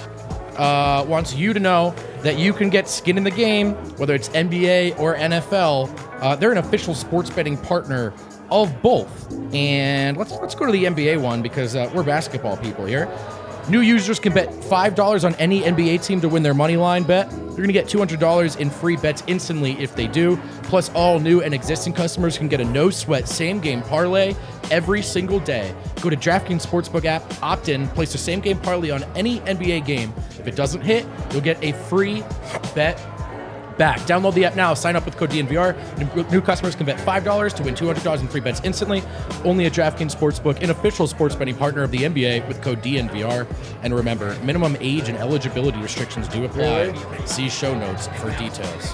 uh, wants you to know that you can get skin in the game, whether it's N B A or N F L. Uh, they're an official sports betting partner of both. And let's let's go to the N B A one because uh, we're basketball people here. New users can bet five dollars on any N B A team to win their money line bet. You're going to get two hundred dollars in free bets instantly if they do. Plus, all new and existing customers can get a no-sweat same-game parlay every single day. Go to DraftKings Sportsbook app, opt in, place a same-game parlay on any N B A game. If it doesn't hit, you'll get a free bet back. Download the app now. Sign up with code D N V R. New, new customers can bet five dollars to win two hundred dollars in free bets instantly. Only at DraftKings Sportsbook, an official sports betting partner of the N B A with code D N V R. And remember, minimum age and eligibility restrictions do apply. See show notes for details.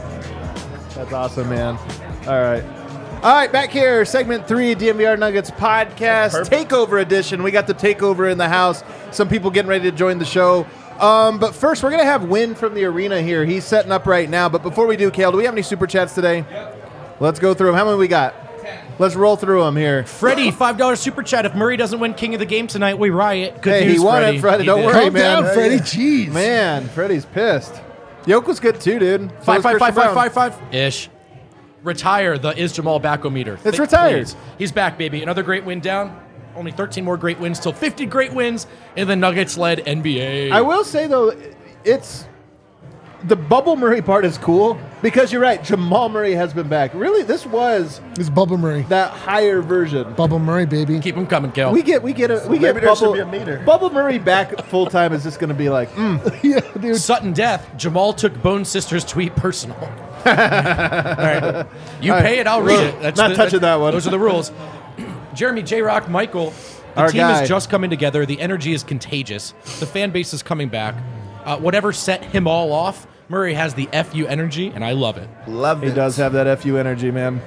That's awesome, man. All right. All right, back here, segment three, D N V R Nuggets podcast, Perfect. takeover edition. We got the takeover in the house. Some people getting ready to join the show. Um, but first, we're going to have Win from the arena here. He's setting up right now. But before we do, Kale, do we have any super chats today? Yep. Let's go through them. How many we got? ten. Let's roll through them here. Freddie, five dollars super chat. If Murray doesn't win King of the Game tonight, we riot. Good Hey, news, he won Freddie. it, Freddie. He Don't did. worry, Calm man. down, Freddie. Jeez. Man, Freddie's pissed. Yoke was good too, dude. So Five, was five, Christian five, five, Brown. five, five. Ish. Retire the Is Jamal Backometer. It's Think, retired. please. He's back, baby. Another great win down. Only thirteen more great wins till fifty great wins in the Nuggets-led N B A. I will say, though, it's the Bubble Murray part is cool because you're right. Jamal Murray has been back. Really, this was It's Bubba Murray. that higher version. Bubba Murray, baby. Keep him coming, Kel. We get we get a we maybe get there should Bubble, be a meter. Bubble Murray back full time is just going to be like, mm. Yeah, dude. Sudden death. Jamal took Bone Sister's tweet personal. All right. You All right. pay it, I'll read it. That's Not the- touching that one. Those are the rules. Jeremy, J-Rock, Michael. The Our team guy. is just coming together. The energy is contagious. The fan base is coming back. Uh, whatever set him all off, Murray has the F U energy, and I love it. Love He it. does have that F U energy, man.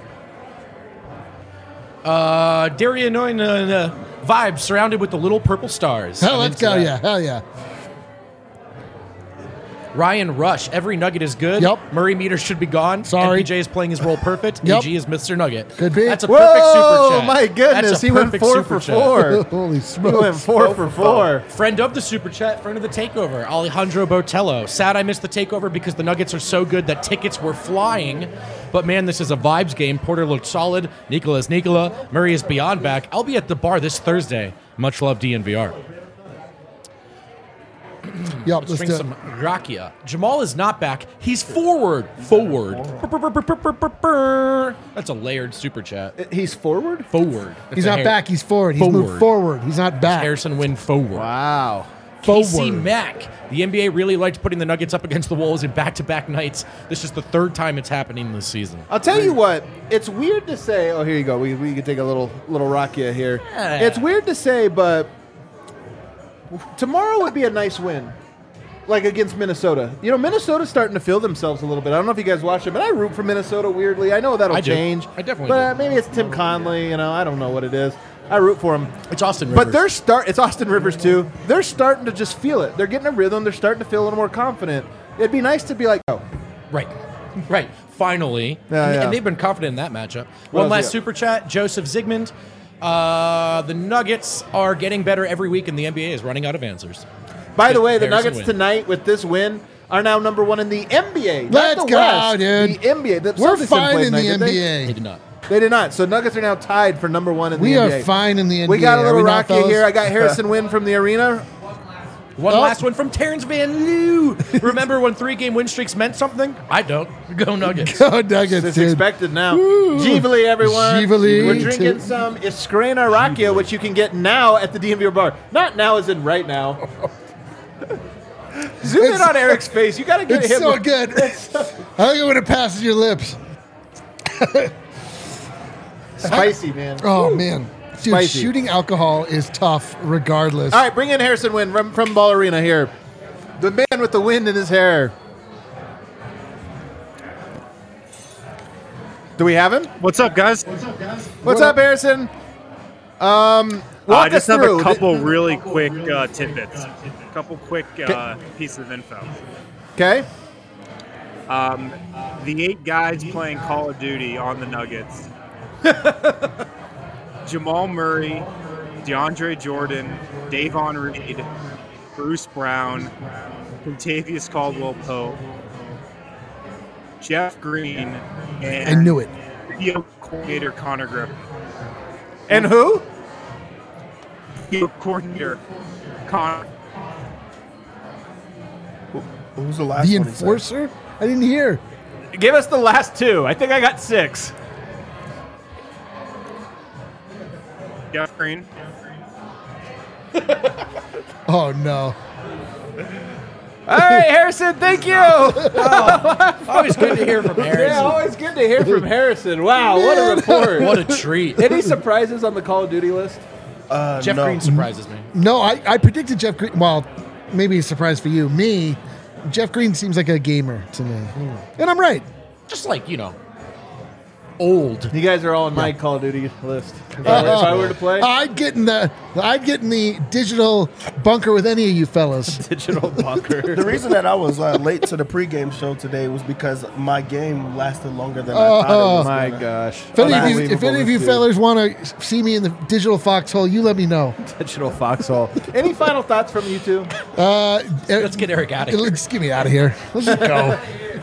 Uh, Darian uh, uh, vibes surrounded with the little purple stars. Hell, I'm let's into go. that. Yeah, hell yeah. Ryan Rush, every nugget is good. Yep. Murray meter should be gone. Sorry. M P J is playing his role perfect. Yep. A G is Mister Nugget. Could be. That's a Whoa, perfect super chat. my goodness. That's a He went perfect four super for chat. four. Holy He smokes. went four for four. Friend of the super chat, friend of the takeover, Alejandro Botello. Sad I missed the takeover because the Nuggets are so good that tickets were flying. But man, this is a vibes game. Porter looked solid. Nikola's Nikola. Murray is beyond back. I'll be at the bar this Thursday. Much love, D N V R. Yep, Let's let's drink do it. some rakia. Jamal is not back. He's forward. Forward. That's a layered super chat. He's forward? Forward. That's He's a not Har- back. He's forward. He's Forward. moved forward. He's not back. Harrison Wynn forward. Wow. K C Forward. Mack. The N B A really liked putting the Nuggets up against the Wolves in back-to-back nights. This is the third time it's happening this season. I'll tell you what, it's weird to say. Oh, here you go. We, we can take a little little Rakia here. Yeah. It's weird to say, but tomorrow would be a nice win, like against Minnesota. You know, Minnesota's starting to feel themselves a little bit. I don't know if you guys watch it, but I root for Minnesota weirdly. I know that'll I do. change. I definitely But do. maybe it's Tim Conley. You know, I don't know what it is. I root for them. It's Austin Rivers. But they're start. It's Austin Rivers too. They're starting to just feel it. They're getting a rhythm. They're starting to feel a little more confident. It'd be nice to be like, oh, Right. Right. Finally. Yeah, and, yeah. and they've been confident in that matchup. What One else last you got? super chat. Joseph Zygmunt. Uh, the Nuggets are getting better every week, and the N B A is running out of answers. by the way, the Harrison Nuggets win. tonight with this win are now number one in the N B A. not Let's the go, West, dude. The N B A. The We're Celtics didn't fine play in the tonight, did N they? B They A. did not. They did not. So Nuggets are now tied for number one in We the are N B A. fine in the N B A. We got a Are little we not, rocky fellas? here. I got Harrison Wynn from the arena. One Oh. last one from Terrence Van Loo. Remember when three-game win streaks meant something? I don't. Go Nuggets. Go Nuggets, It's dude. expected now. Woo. Jivali, everyone. Jivali. We're drinking some Iskrena Rakia, which you can get now at the D M V bar. Not now as in right now. Zoom in It's- on Eric's face. You got to get It's him. so good. I like it when it passes your lips. Spicy, man. Oh, man. Dude, Spicy. shooting alcohol is tough regardless. All right, bring in Harrison Wynn from, from Ball Arena here. The man with the wind in his hair. Do we have him? What's up, guys? What's up, Harrison? Um, walk I just us have through. a couple really quick uh, tidbits. A couple quick uh, pieces of info. Okay. Um, the eight guys playing Call of Duty on the Nuggets. Jamal Murray, DeAndre Jordan, Davon Reed, Bruce Brown, Contavious Caldwell-Pope, Jeff Green, and I knew it. video coordinator Connor Griffin. And who? Video coordinator Connor. Who's the last The one? he said? enforcer? I didn't hear. Give us the last two. I think I got six. Jeff Green. Oh, no. All right, Harrison, thank you. Always good to hear from Yeah, Harrison. always good to hear from Harrison. Wow, what a report. What a treat. Any surprises on the Call of Duty list? Uh, Jeff no. Green surprises me. No, I, I predicted Jeff Green. Well, maybe a surprise for you. Me, Jeff Green seems like a gamer to me. And I'm right. Just like, you know, old. You guys are all on my Call of Duty list. If I, were, if I were to play, I'd get in the I'd get in the digital bunker with any of you fellas. digital bunker. The reason that I was uh, late to the pregame show today was because my game lasted longer than I Oh. thought it was. My gonna. gosh. If any of you, if Unbelievable, any of you this fellas want to see me in the digital foxhole, you let me know. dude. Digital foxhole. Any final thoughts from you two? Uh, Let's get Eric out of here. Let's get me out of here. Let's just go.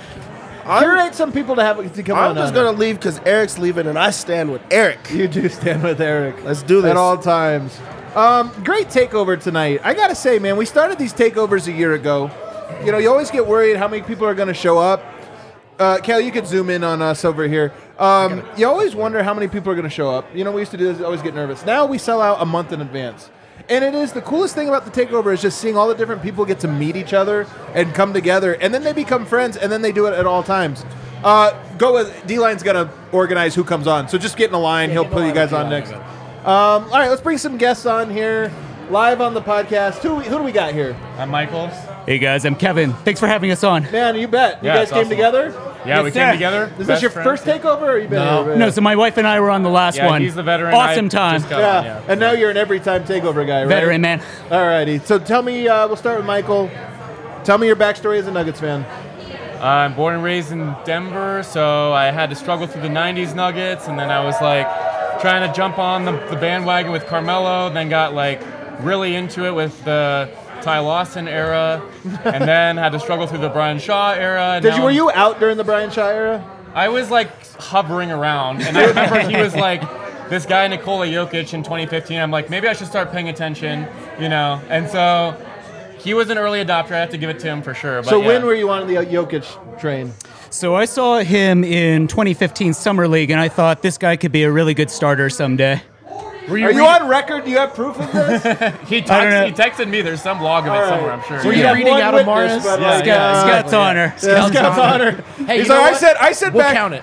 Curate some people to have to come I'm on. just on. gonna leave because Eric's leaving, and I stand with Eric. You do stand with Eric. Let's do this. At all times. Um, great takeover tonight. I gotta say, man, we started these takeovers a year ago. You know, you always get worried how many people are gonna show up. Uh, Cal, you could zoom in on us over here. Um, you always wonder how many people are gonna show up. You know, we used to do this, always get nervous. Now we sell out a month in advance. And it is the coolest thing about the takeover is just seeing all the different people get to meet each other and come together, and then they become friends, and then they do it at all times. Uh, go with D-Line's gonna organize who comes on, so just get in a line. He'll put you guys on next. Um, all right, let's bring some guests on here, live on the podcast. Who who do we got here? I'm Michael. Hey guys, I'm Kevin. Thanks for having us on. Man, you bet. You Yeah, guys it's came awesome. together. Yeah, we Yes, came sir. together. Is this best your friends. first takeover, or you been No. here? No, so my wife and I were on the last Yeah, one. he's the veteran. Awesome I time. just got yeah. on, yeah. And now you're an every time takeover guy, right? Veteran man. All righty. So tell me, uh, we'll start with Michael. Tell me your backstory as a Nuggets fan. Uh, I'm born and raised in Denver, so I had to struggle through the nineties Nuggets, and then I was like trying to jump on the, the bandwagon with Carmelo, then got like really into it with the Ty Lawson era, and then had to struggle through the Brian Shaw era. And Did now you were I'm- you out during the Brian Shaw era? I was like hovering around, and I remember he was like this guy Nikola Jokic in twenty fifteen. I'm like, maybe I should start paying attention, you know. And so he was an early adopter. I have to give it to him for sure. But So yeah. when were you on the Jokic train? So I saw him in twenty fifteen Summer League, and I thought this guy could be a really good starter someday. Were Are you on record? Do you have proof of this? He, I don't know. text, he texted me. There's some log of it All right. somewhere, I'm sure. So Were you you have reading one out of witness, Mars? but, Yeah, like, yeah. uh, Scott's honor. yeah, Scott's honor. Hey, He's you know like, I what? said, I said We'll back. count it.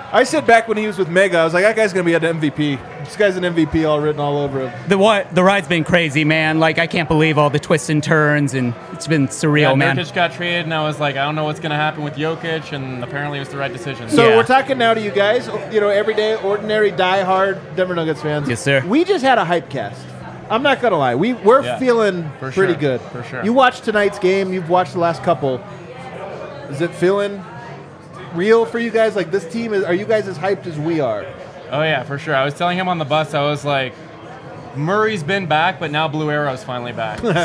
I said back when he was with Mega, I was like, that guy's going to be an M V P. This guy's an M V P all written all over him. The what? The ride's been crazy, man. Like I can't believe all the twists and turns, and it's been surreal, Yeah, man. Nurkic got traded, and I was like, I don't know what's going to happen with Jokic, and apparently it was the right decision. So Yeah. we're talking now to you guys, you know, everyday, ordinary, die-hard Denver Nuggets fans. Yes, sir. We just had a hype cast. I'm not going to lie. We, we're Yeah, feeling for pretty sure, good. for sure. You watched tonight's game. You've watched the last couple. Is it feeling real for you guys? Like, this team, is? Are you guys as hyped as we are? Oh, yeah, for sure. I was telling him on the bus, I was like, Murray's been back, but now Blue Arrow's finally back. So,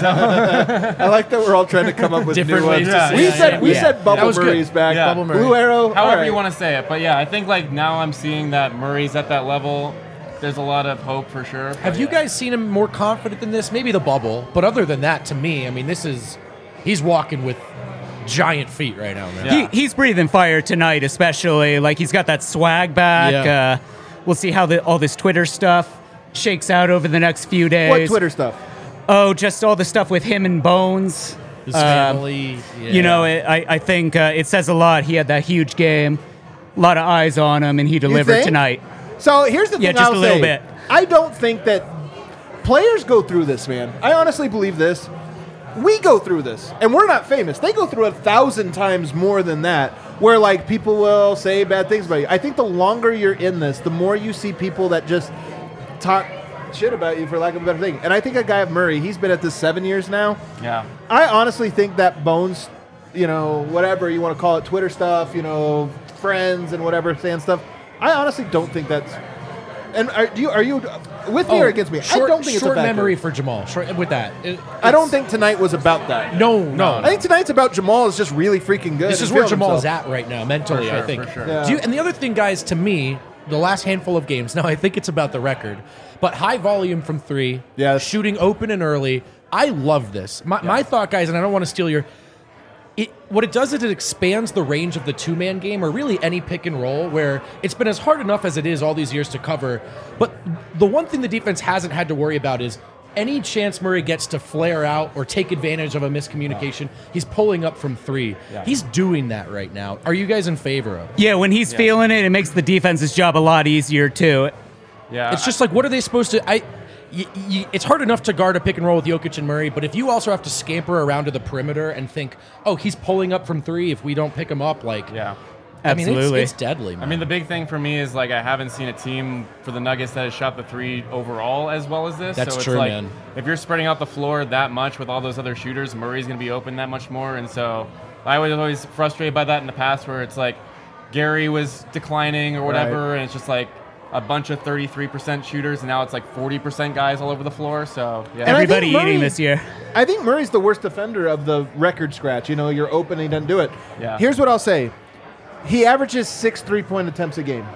I like that we're all trying to come up with Different new ways ones. to say we it. said, we Yeah. said That Bubble was good. Murray's back. Yeah. Bubble Blue Arrow. however all you right. want to say it. But yeah, I think like now I'm seeing that Murray's at that level. There's a lot of hope for sure. But Have you yeah. guys seen him more confident than this? Maybe the bubble, but other than that, to me, I mean, this is he's walking with giant feet right now, man. Yeah. He, he's breathing fire tonight, especially. Like he's got that swag back. Yeah. Uh, we'll see how the, all this Twitter stuff shakes out over the next few days. What Twitter stuff? Oh, just all the stuff with him and Bones. His Um, family, yeah. You know, it, I, I think uh, it says a lot. He had that huge game, a lot of eyes on him, and he delivered think? tonight. So here's the thing. Yeah, just I'll a little say. bit. I don't think that players go through this, man. I honestly believe this. We go through this, and we're not famous. They go through a thousand times more than that, where like people will say bad things about you. I think the longer you're in this, the more you see people that just talk shit about you, for lack of a better thing. And I think a guy of Murray, he's been at this seven years now. Yeah. I honestly think that Bones, you know, whatever you want to call it, Twitter stuff, you know, friends and whatever, saying stuff. I honestly don't think that's. And are do you are you with me or against me? Short, I don't think it's a short factor. memory for Jamal. Short, with that, It- I don't it's- think tonight was about that. No, no. I think tonight's about Jamal is just really freaking good. This and is where feeling Jamal's himself. at right now mentally. For sure, I think. for sure. Yeah. Do you, and the other thing, guys, to me, the last handful of games. Now I think it's about the record, but high volume from three. Yes. Shooting open and early. I love this. My, my thought, guys, and I don't want to steal your. It, what it does is it expands the range of the two-man game, or really any pick and roll, where it's been as hard enough as it is all these years to cover. But the one thing the defense hasn't had to worry about is any chance Murray gets to flare out or take advantage of a miscommunication, he's pulling up from three. Yeah. He's doing that right now. Are you guys in favor of it? Yeah, when he's feeling it, it makes the defense's job a lot easier, too. Yeah. It's just like, what are they supposed to? I. Y- y- it's hard enough to guard a pick and roll with Jokic and Murray, but if you also have to scamper around to the perimeter and think, oh, he's pulling up from three if we don't pick him up, like, yeah. I mean, Absolutely. it's, it's deadly, man. I mean, the big thing for me is like I haven't seen a team for the Nuggets that has shot the three overall as well as this. That's so it's true, like, man. If you're spreading out the floor that much with all those other shooters, Murray's going to be open that much more. And so I was always frustrated by that in the past, where it's like Gary was declining or whatever, Right. and it's just like a bunch of thirty-three percent shooters, and now it's like forty percent guys all over the floor. So yeah. And I think Everybody Murray- eating this year. I think Murray's the worst defender of the record scratch. You know, you're open and he doesn't do it. Yeah. Here's what I'll say. He averages six three-point attempts a game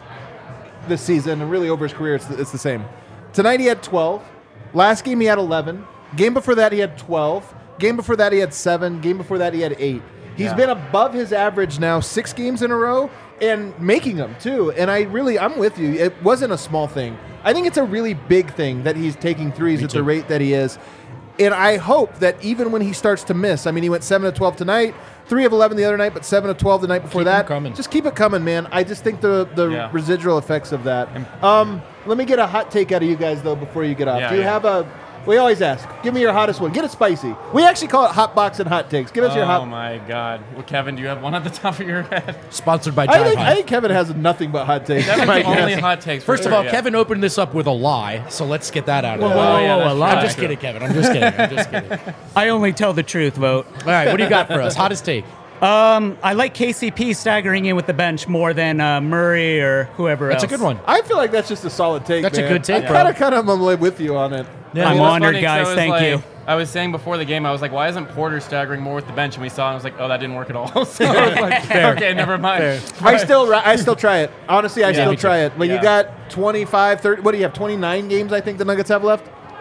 this season, and really over his career, it's the, it's the same. Tonight he had twelve. Last game he had eleven. Game before that he had twelve. Game before that he had seven. Game before that he had eight. He's Yeah. been above his average now six games in a row and making them too. And I really, I'm with you. It wasn't a small thing. I think it's a really big thing that he's taking threes at the too. rate that he is. And I hope that even when he starts to miss, I mean, he went seven of twelve tonight, three of eleven the other night, but seven of twelve the night before Keep 'em that. coming. Just keep it coming, man. I just think the, the Yeah. residual effects of that. Um, let me get a hot take out of you guys, though, before you get off. Yeah, Do you yeah. have a... We always ask, give me your hottest one. Get it spicy. We actually call it hot box and hot takes. Give us your Oh hot... my God. Well, Kevin, do you have one at the top of your head? Sponsored by I Jive think, Hive. I think Kevin has nothing but hot takes. Kevin's My the only guess. hot takes. for First of sure, all, yeah. Kevin opened this up with a lie, so let's get that out of Whoa, the whoa, way. whoa, yeah, whoa, that's lie. I'm just kidding, Kevin. I'm just kidding. I'm just kidding. All I only tell the truth, vote. right, what do you got for us? Hottest take. Um, I like K C P staggering in with the bench more than uh, Murray or whoever That's else. a good one. I feel like that's just a solid take, That's a man. good take, I bro. kind of, kind of am with you on it. Yeah, I'm Well, it's honored, funny 'cause I guys. was Thank like- you. I was saying before the game, I was like, why isn't Porter staggering more with the bench? And we saw it, and I was like, oh, that didn't work at all. So I was like, okay, never mind. I still, ri- I still try it. Honestly, I Yeah, still me too. try it. But you Yeah. got twenty-five, thirty. What do you have? twenty-nine games, I think the Nuggets have left.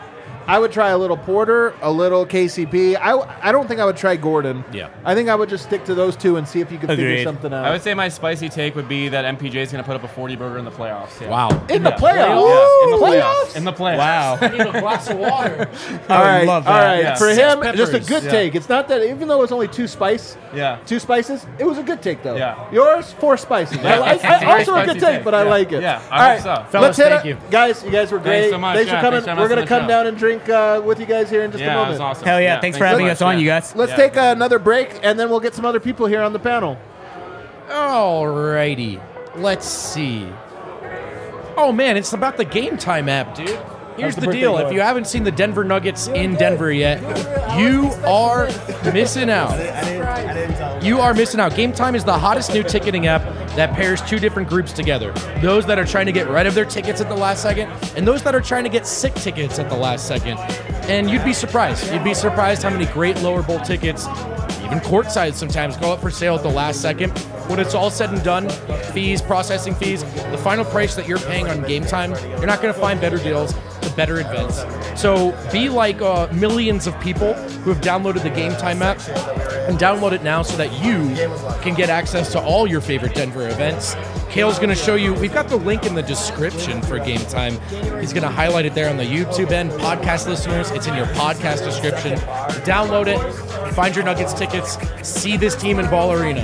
I would try a little Porter, a little K C P. I, I don't think I would try Gordon. Yeah. I think I would just stick to those two and see if you could figure Agreed. something out. I would say my spicy take would be that M P J is going to put up a forty burger in the playoffs. Yeah. Wow. in the Yeah. playoffs. Yeah, in the Playoffs? playoffs. In the playoffs. Wow. I need a glass of water. All right, love all that, right. yeah. For Six him, just a peppers. good Yeah. take. It's not that, even though it's only two spice, Yeah. two spices, it was a good take though. Yeah. Yours, four spices. I, Yeah. I, It's a I, very also a good spicy take, take. but I Yeah. like it. Yeah, I all hope right, so. Fellas, let's hit thank it. you. Guys, you guys were great. Thanks so much. Thanks for Yeah, coming. thanks for having We're us gonna on the come show. down and drink uh, with you guys here in just Yeah, a that moment. was awesome. Hell yeah. Thanks for so having much. us on, Yeah. you guys. Let's Yeah. take another break, and then we'll get some other people here on the panel. Alrighty. Let's see. Oh man, it's about the Game Time app, dude. Here's How's the the, birthday deal. going? If you haven't seen the Denver Nuggets in Denver yet, you are missing out. I didn't, I didn't tell him. You are missing out. Game Time is the hottest new ticketing app that pairs two different groups together. Those that are trying to get rid of their tickets at the last second, and those that are trying to get sick tickets at the last second. And you'd be surprised. You'd be surprised how many great lower bowl tickets, even courtside sometimes, go up for sale at the last second. When it's all said and done, fees, processing fees, the final price that you're paying on Game Time, you're not going to find better deals to better events. So be like uh, millions of people who have downloaded the Game Time app, and download it now so that you can get access to all your favorite Denver events. Kale's going to show you, we've got the link in the description for Game Time. He's going to highlight it there on the YouTube end. Podcast listeners, it's in your podcast description. Download it, find your Nuggets tickets, see this team in Ball Arena.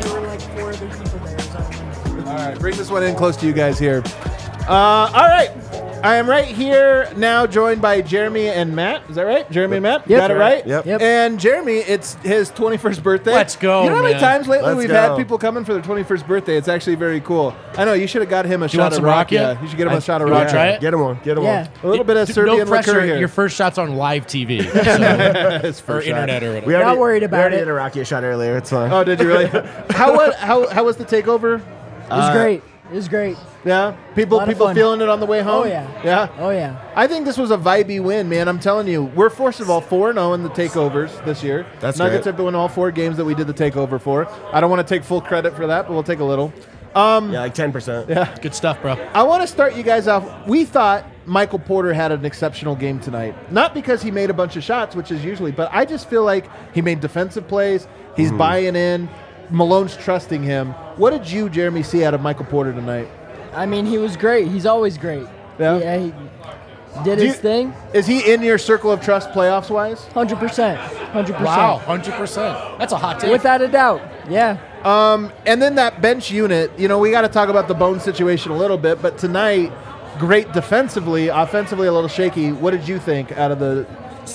All right, bring this one in close to you guys here. Uh, all right. I am right here now, joined by Jeremy and Matt. Is that right? Jeremy and Matt? Yep. Got it right? Yep. Yep. And Jeremy, it's his twenty-first birthday. Let's go, You know how many man. times lately Let's we've go. had people coming for their twenty-first birthday? It's actually very cool. I know, you should have got him a you shot want of some Rakia? Rakia. You should get him a I- shot of you wanna Rakia. try it? Get him one. Get him Yeah. A little bit of It- Serbian no pressure. liqueur here. Your first shot's on live T V, so, It's or first shot. internet or whatever. We already, worried we about already it. did a Rocky shot earlier. It's fine. Oh, did you really? how, was, how, how was the takeover? It was great. It was great. Yeah? People Lot of people fun. feeling it on the way home? Oh, yeah. Yeah? Oh, yeah. I think this was a vibey win, man. I'm telling you. We're, first of all, four and oh in the takeovers this year. That's Nuggets great. have won all four games that we did the takeover for. I don't want to take full credit for that, but we'll take a little. Um, Yeah, like ten percent. yeah. Good stuff, bro. I want to start you guys off. We thought Michael Porter had an exceptional game tonight. Not because he made a bunch of shots, which is usually, but I just feel like he made defensive plays. He's Mm-hmm. buying in. Malone's trusting him. What did you, Jeremy, see out of Michael Porter tonight? I mean, he was great. He's always great. Yeah? Yeah, he did Do his you- thing. Is he in your circle of trust playoffs wise? one hundred percent. one hundred percent. Wow, one hundred percent. That's a hot take. Without a doubt. Yeah. Um, and then that bench unit, you know, we got to talk about the Bone situation a little bit, but tonight, great defensively, offensively a little shaky. What did you think out of the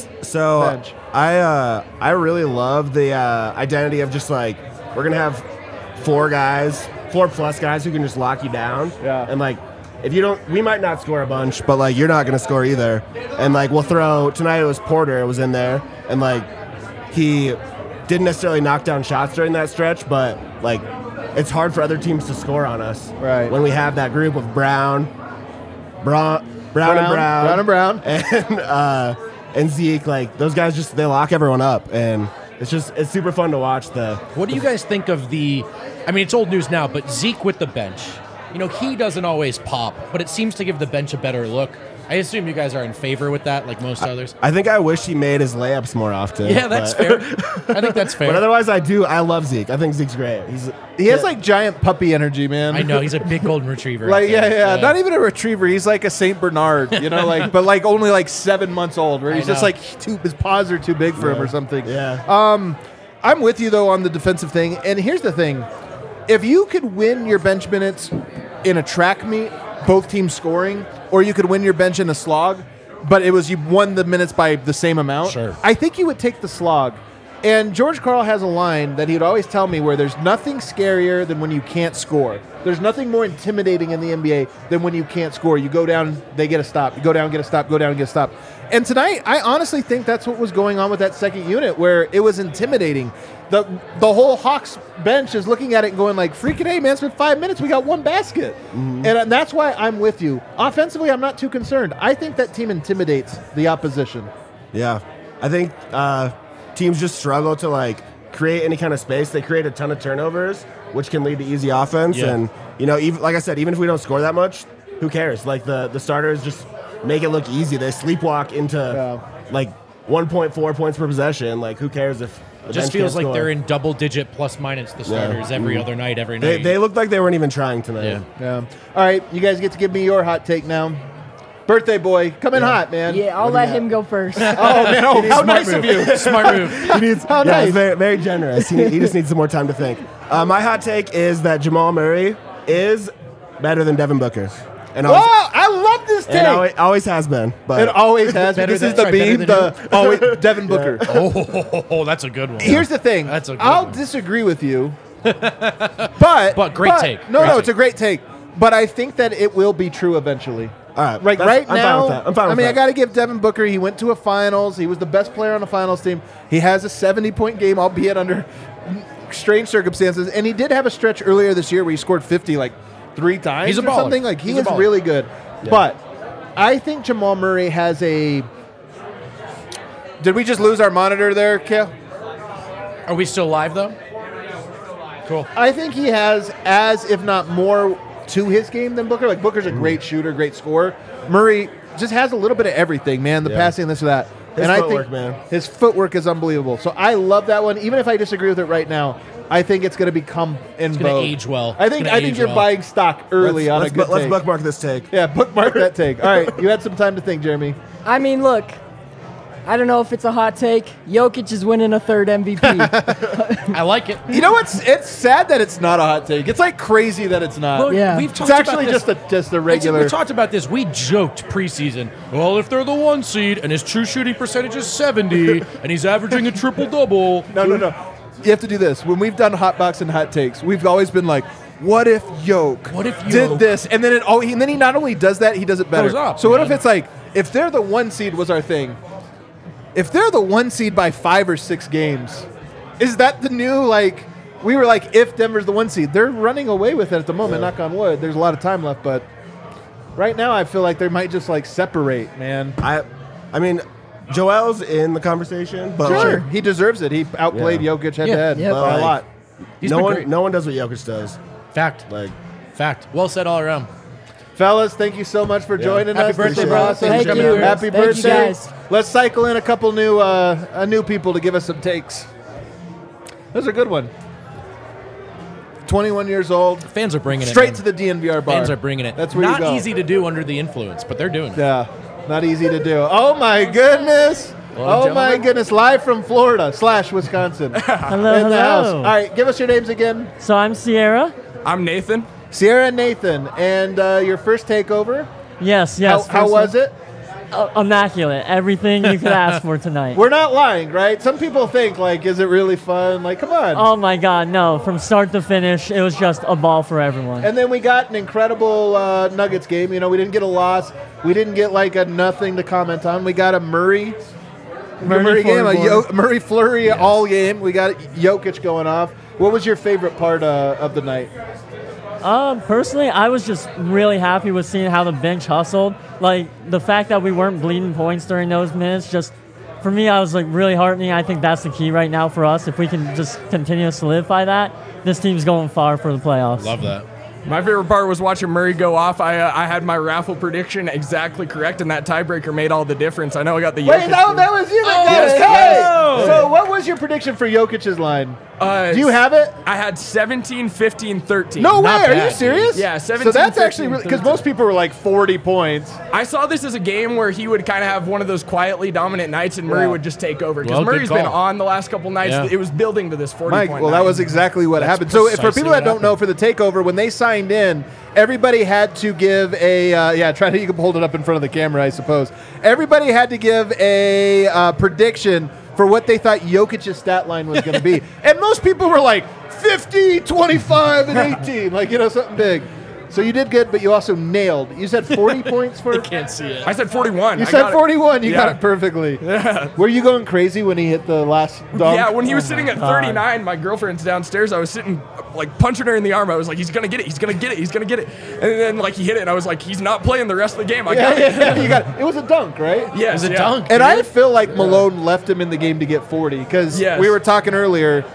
So bench? I uh, I really love the uh, identity of just like we're gonna have four guys, four plus guys who can just lock you down. Yeah. And like if you don't, we might not score a bunch, but like you're not gonna score either. And like we'll throw tonight. It was Porter was in there, and like he didn't necessarily knock down shots during that stretch, but like it's hard for other teams to score on us. Right. When we have that group of Brown, Brown, Brown, and Brown, Brown and Brown. and uh, and Zeke, like those guys just they lock everyone up, and it's just it's super fun to watch. The What do you guys think of the? I mean, it's old news now, but Zeke with the bench. You know, he doesn't always pop, but it seems to give the bench a better look. I assume you guys are in favor with that, like most others. I think I wish he made his layups more often. Yeah, that's but- fair. I think that's fair. But otherwise, I do. I love Zeke. I think Zeke's great. He's He has like giant puppy energy, man. I know he's a big golden retriever. Like out yeah, there. yeah, not even a retriever. He's like a Saint Bernard, you know, like but like only like seven months old. Where I he's just know. like too, his paws are too big for him or something. yeah. Um, I'm with you though on the defensive thing. And here's the thing: if you could win your bench minutes in a track meet, both teams scoring, or you could win your bench in a slog, but it was you won the minutes by the same amount. Sure. I think you would take the slog. And George Karl has a line that he'd always tell me where there's nothing scarier than when you can't score. There's nothing more intimidating in the N B A than when you can't score. You go down, they get a stop. You go down, get a stop, go down, get a stop. And tonight, I honestly think that's what was going on with that second unit, where it was intimidating. The the whole Hawks bench is looking at it and going like, freaking A, man, it's been five minutes. We got one basket. And uh, that's why I'm with you. Offensively, I'm not too concerned. I think that team intimidates the opposition. Yeah, I think uh, teams just struggle to like create any kind of space. They create a ton of turnovers, which can lead to easy offense. Yeah. And you know, even like I said, even if we don't score that much, who cares? Like the the starters just make it look easy. They sleepwalk into Yeah. like one point four points per possession. Like, who cares if the It just bench feels can't like score? they're in double digit plus minus the starters every Mm. other night, every They, night. they looked like they weren't even trying tonight. Yeah. Yeah. All right, you guys get to give me your hot take now. Birthday boy, come in hot, man. Yeah, I'll let him go first. Oh man, oh, how nice of you. Smart move. He needs, How yeah, nice. he's very, very generous. He, he just needs some more time to think. Uh, my hot take is that Jamal Murray is better than Devin Booker. And Whoa, always, I love this take. and always, always has been. But It always has. Better This than- is the sorry, better beam. than The always Devin Booker. Oh, that's a good one. Here's the thing. That's a good I'll one. disagree with you, but But great take. No, Great no, take. it's a great take. But I think that it will be true eventually. all right, Like that's- right I'm now, fine with that. I'm fine I with mean, that. I got to give Devin Booker. He went to a finals. He was the best player on the finals team. He has a seventy-point game, albeit under strange circumstances. And he did have a stretch earlier this year where he scored fifty like three times He's a or baller. something. Like he He's a is baller. really good. But I think Jamal Murray has a. Did we just lose our monitor there, Kale? Are we still live though? Cool. I think he has as, if not more, to his game than Booker. Like Booker's a great shooter, great scorer. Murray just has a little bit of everything, man. The Yeah. passing, this or that. His and I footwork, think man. his footwork is unbelievable. So I love that one. Even if I disagree with it right now, I think it's going to become in gonna vogue. age well. I It's think gonna I think age you're well. buying stock early let's, on let's, a good bu- let's take. bookmark this take. Yeah, bookmark that take. All right, you had some time to think, Jeremy. I mean, look, I don't know if it's a hot take. Jokic is winning a third M V P. I like it. You know what's? It's sad that it's not a hot take. It's like crazy that it's not. Well, Yeah. we've It's talked actually about this. just a just a It's- regular. We talked about this. We joked preseason. Well, if they're the one seed and his true shooting percentage is seventy and he's averaging a triple double, No, no, no. You have to do this. When we've done hot box and hot takes, we've always been like, "What if Yoke? What if did Yoke- this?" And then it all. And then he not only does that, he does it better. Goes up, so what if man. it's like, if they're the one seed was our thing, if they're the one seed by five or six games, is that the new like? We were like, if Denver's the one seed, they're running away with it at the moment. Knock on wood. There's a lot of time left, but right now I feel like they might just like separate, man. I, I mean, Joel's in the conversation, but Sure, like, he deserves it. He outplayed Yeah. Jokic head Yeah, to head yeah. by a Like, lot. He's no been one, great. no one does what Jokic does. fact, Like, fact. Well said all around. Fellas, thank you so much for joining Happy us. birthday, This is bro. awesome. Thank you. Happy Thank you, birthday. guys. Let's cycle in a couple new uh, uh, new people to give us some takes. That was a good one. twenty-one years old. Fans are bringing Straight it. to the D N V R bar. Fans are bringing it. That's where Not you go. easy to do under the influence, but they're doing it. Yeah, not easy to do. Oh my goodness. Hello, oh my gentlemen. goodness. Live from Florida slash Wisconsin. Hello, in the house. hello. All right, give us your names again. So I'm Sierra. I'm Nathan. Sierra and Nathan. And uh, your first takeover. Yes, yes. how how first was one- it? Uh, immaculate. Everything you could ask for tonight. We're not lying, right? Some people think, like, is it really fun? Like, come on. Oh my God, no! From start to finish, it was just a ball for everyone. And then we got an incredible uh, Nuggets game. You know, we didn't get a loss. We didn't get like a nothing to comment on. We got a Murray, Murray Murray game, a forward. Yo- Murray flurry all game. We got Jokic going off. What was your favorite part uh, of the night? Um, personally, I was just really happy with seeing how the bench hustled. Like the fact that we weren't bleeding points during those minutes. Just for me, I was like really heartening. I think that's the key right now for us. If we can just continue to solidify that, this team's going far for the playoffs. Love that. My favorite part was watching Murray go off. I uh, I had my raffle prediction exactly correct, and that tiebreaker made all the difference. I know I got the Wait, Jokic no, thing. that was you that Oh, got yes, it. yes. Hey! So what was your prediction for Jokic's line? Uh, Do you have it? I had seventeen, fifteen, thirteen. No way. Not Are you bad, serious? dude. Yeah, So seventeen, that's actually fifteen, really because thirteen. most people were like forty points. I saw this as a game where he would kind of have one of those quietly dominant nights, and Murray Yeah. would just take over. Because Well, good Murray's been call. on the last couple nights. Yeah. It was building to this forty Mike, point well, that night. was exactly what That's happened. So, if for precisely people that what don't know, for the takeover, when they signed in, everybody had to give a uh, yeah. Try to you can hold it up in front of the camera, I suppose. Everybody had to give a uh, prediction for what they thought Jokic's stat line was going to be, and most people were like fifty, twenty-five, and eighteen, like you know something big. So you did good, but you also nailed. You said forty points for. Can't see it. I said forty-one. You I said got it. forty-one. You got Yeah. it perfectly. Yeah. Were you going crazy when he hit the last dunk? Yeah, when he was Oh sitting my at God. thirty-nine, my girlfriend's downstairs. I was sitting, like, punching her in the arm. I was like, he's going to get it. He's going to get it. He's going to get it. And then, like, he hit it, and I was like, he's not playing the rest of the game. I Yeah, got it. yeah, you got it. It was a dunk, right? Yes, It was a yeah. dunk. And dude. I feel like Malone left him in the game to get forty because Yes. we were talking earlier.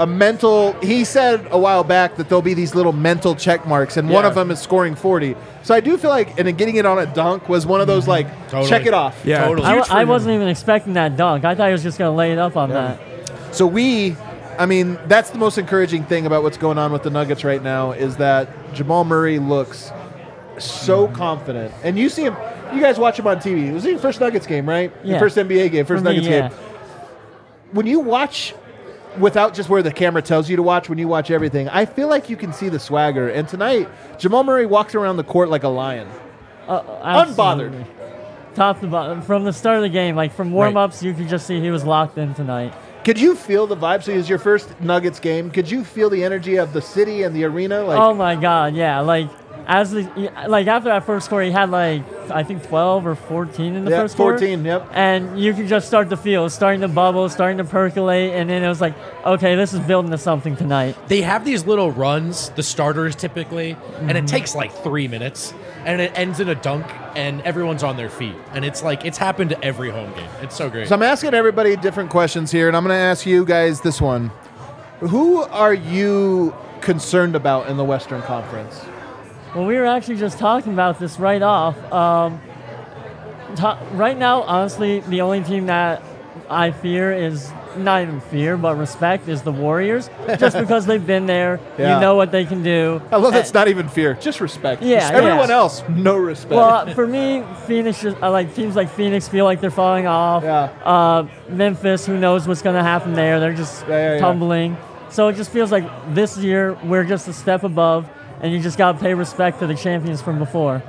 a mental. He said a while back that there'll be these little mental check marks, and one Yeah. of them is scoring forty. So I do feel like, and then getting it on a dunk was one of those like Totally. check it off. Yeah. Totally. I, Huge w- I for wasn't even expecting that dunk. I thought he was just going to lay it up on that. So we, I mean, that's the most encouraging thing about what's going on with the Nuggets right now is that Jamal Murray looks so confident, and you see him. You guys watch him on T V. It was your first Nuggets game, right? Your Yeah. first N B A game, first For me, Nuggets yeah. game. When you watch without just where the camera tells you to watch, when you watch everything, I feel like you can see the swagger. And tonight, Jamal Murray walks around the court like a lion. Uh, Unbothered. absolutely. Top to bottom. From the start of the game, like from warm-ups, you could just see he was locked in tonight. Could you feel the vibe? So it was your first Nuggets game. Could you feel the energy of the city and the arena? Like, Oh my God, yeah. Like as the like after that first quarter, he had like I think twelve or fourteen in the yeah, first quarter. fourteen, yep. And you could just start to feel it's starting to bubble, starting to percolate, and then it was like, okay, this is building to something tonight. They have these little runs, the starters typically, and Mm-hmm. it takes like three minutes, and it ends in a dunk, and everyone's on their feet, and it's like it's happened to every home game. It's so great. So I'm asking everybody different questions here, and I'm going to ask you guys this one. Who are you concerned about in the Western Conference? Well, we were actually just talking about this right off. Um, to- right now, honestly, the only team that I fear is not even fear, but respect is the Warriors, just because they've been there. Yeah. You know what they can do. I love And- that's not even fear, just respect. Yeah, Everyone yeah. else, no respect. Well, for me, Phoenix, just- I like teams like Phoenix feel like they're falling off. Yeah. Uh, Memphis, who knows what's going to happen there? They're just Yeah, yeah, yeah. tumbling. So it just feels like this year we're just a step above, and you just got to pay respect to the champions from before.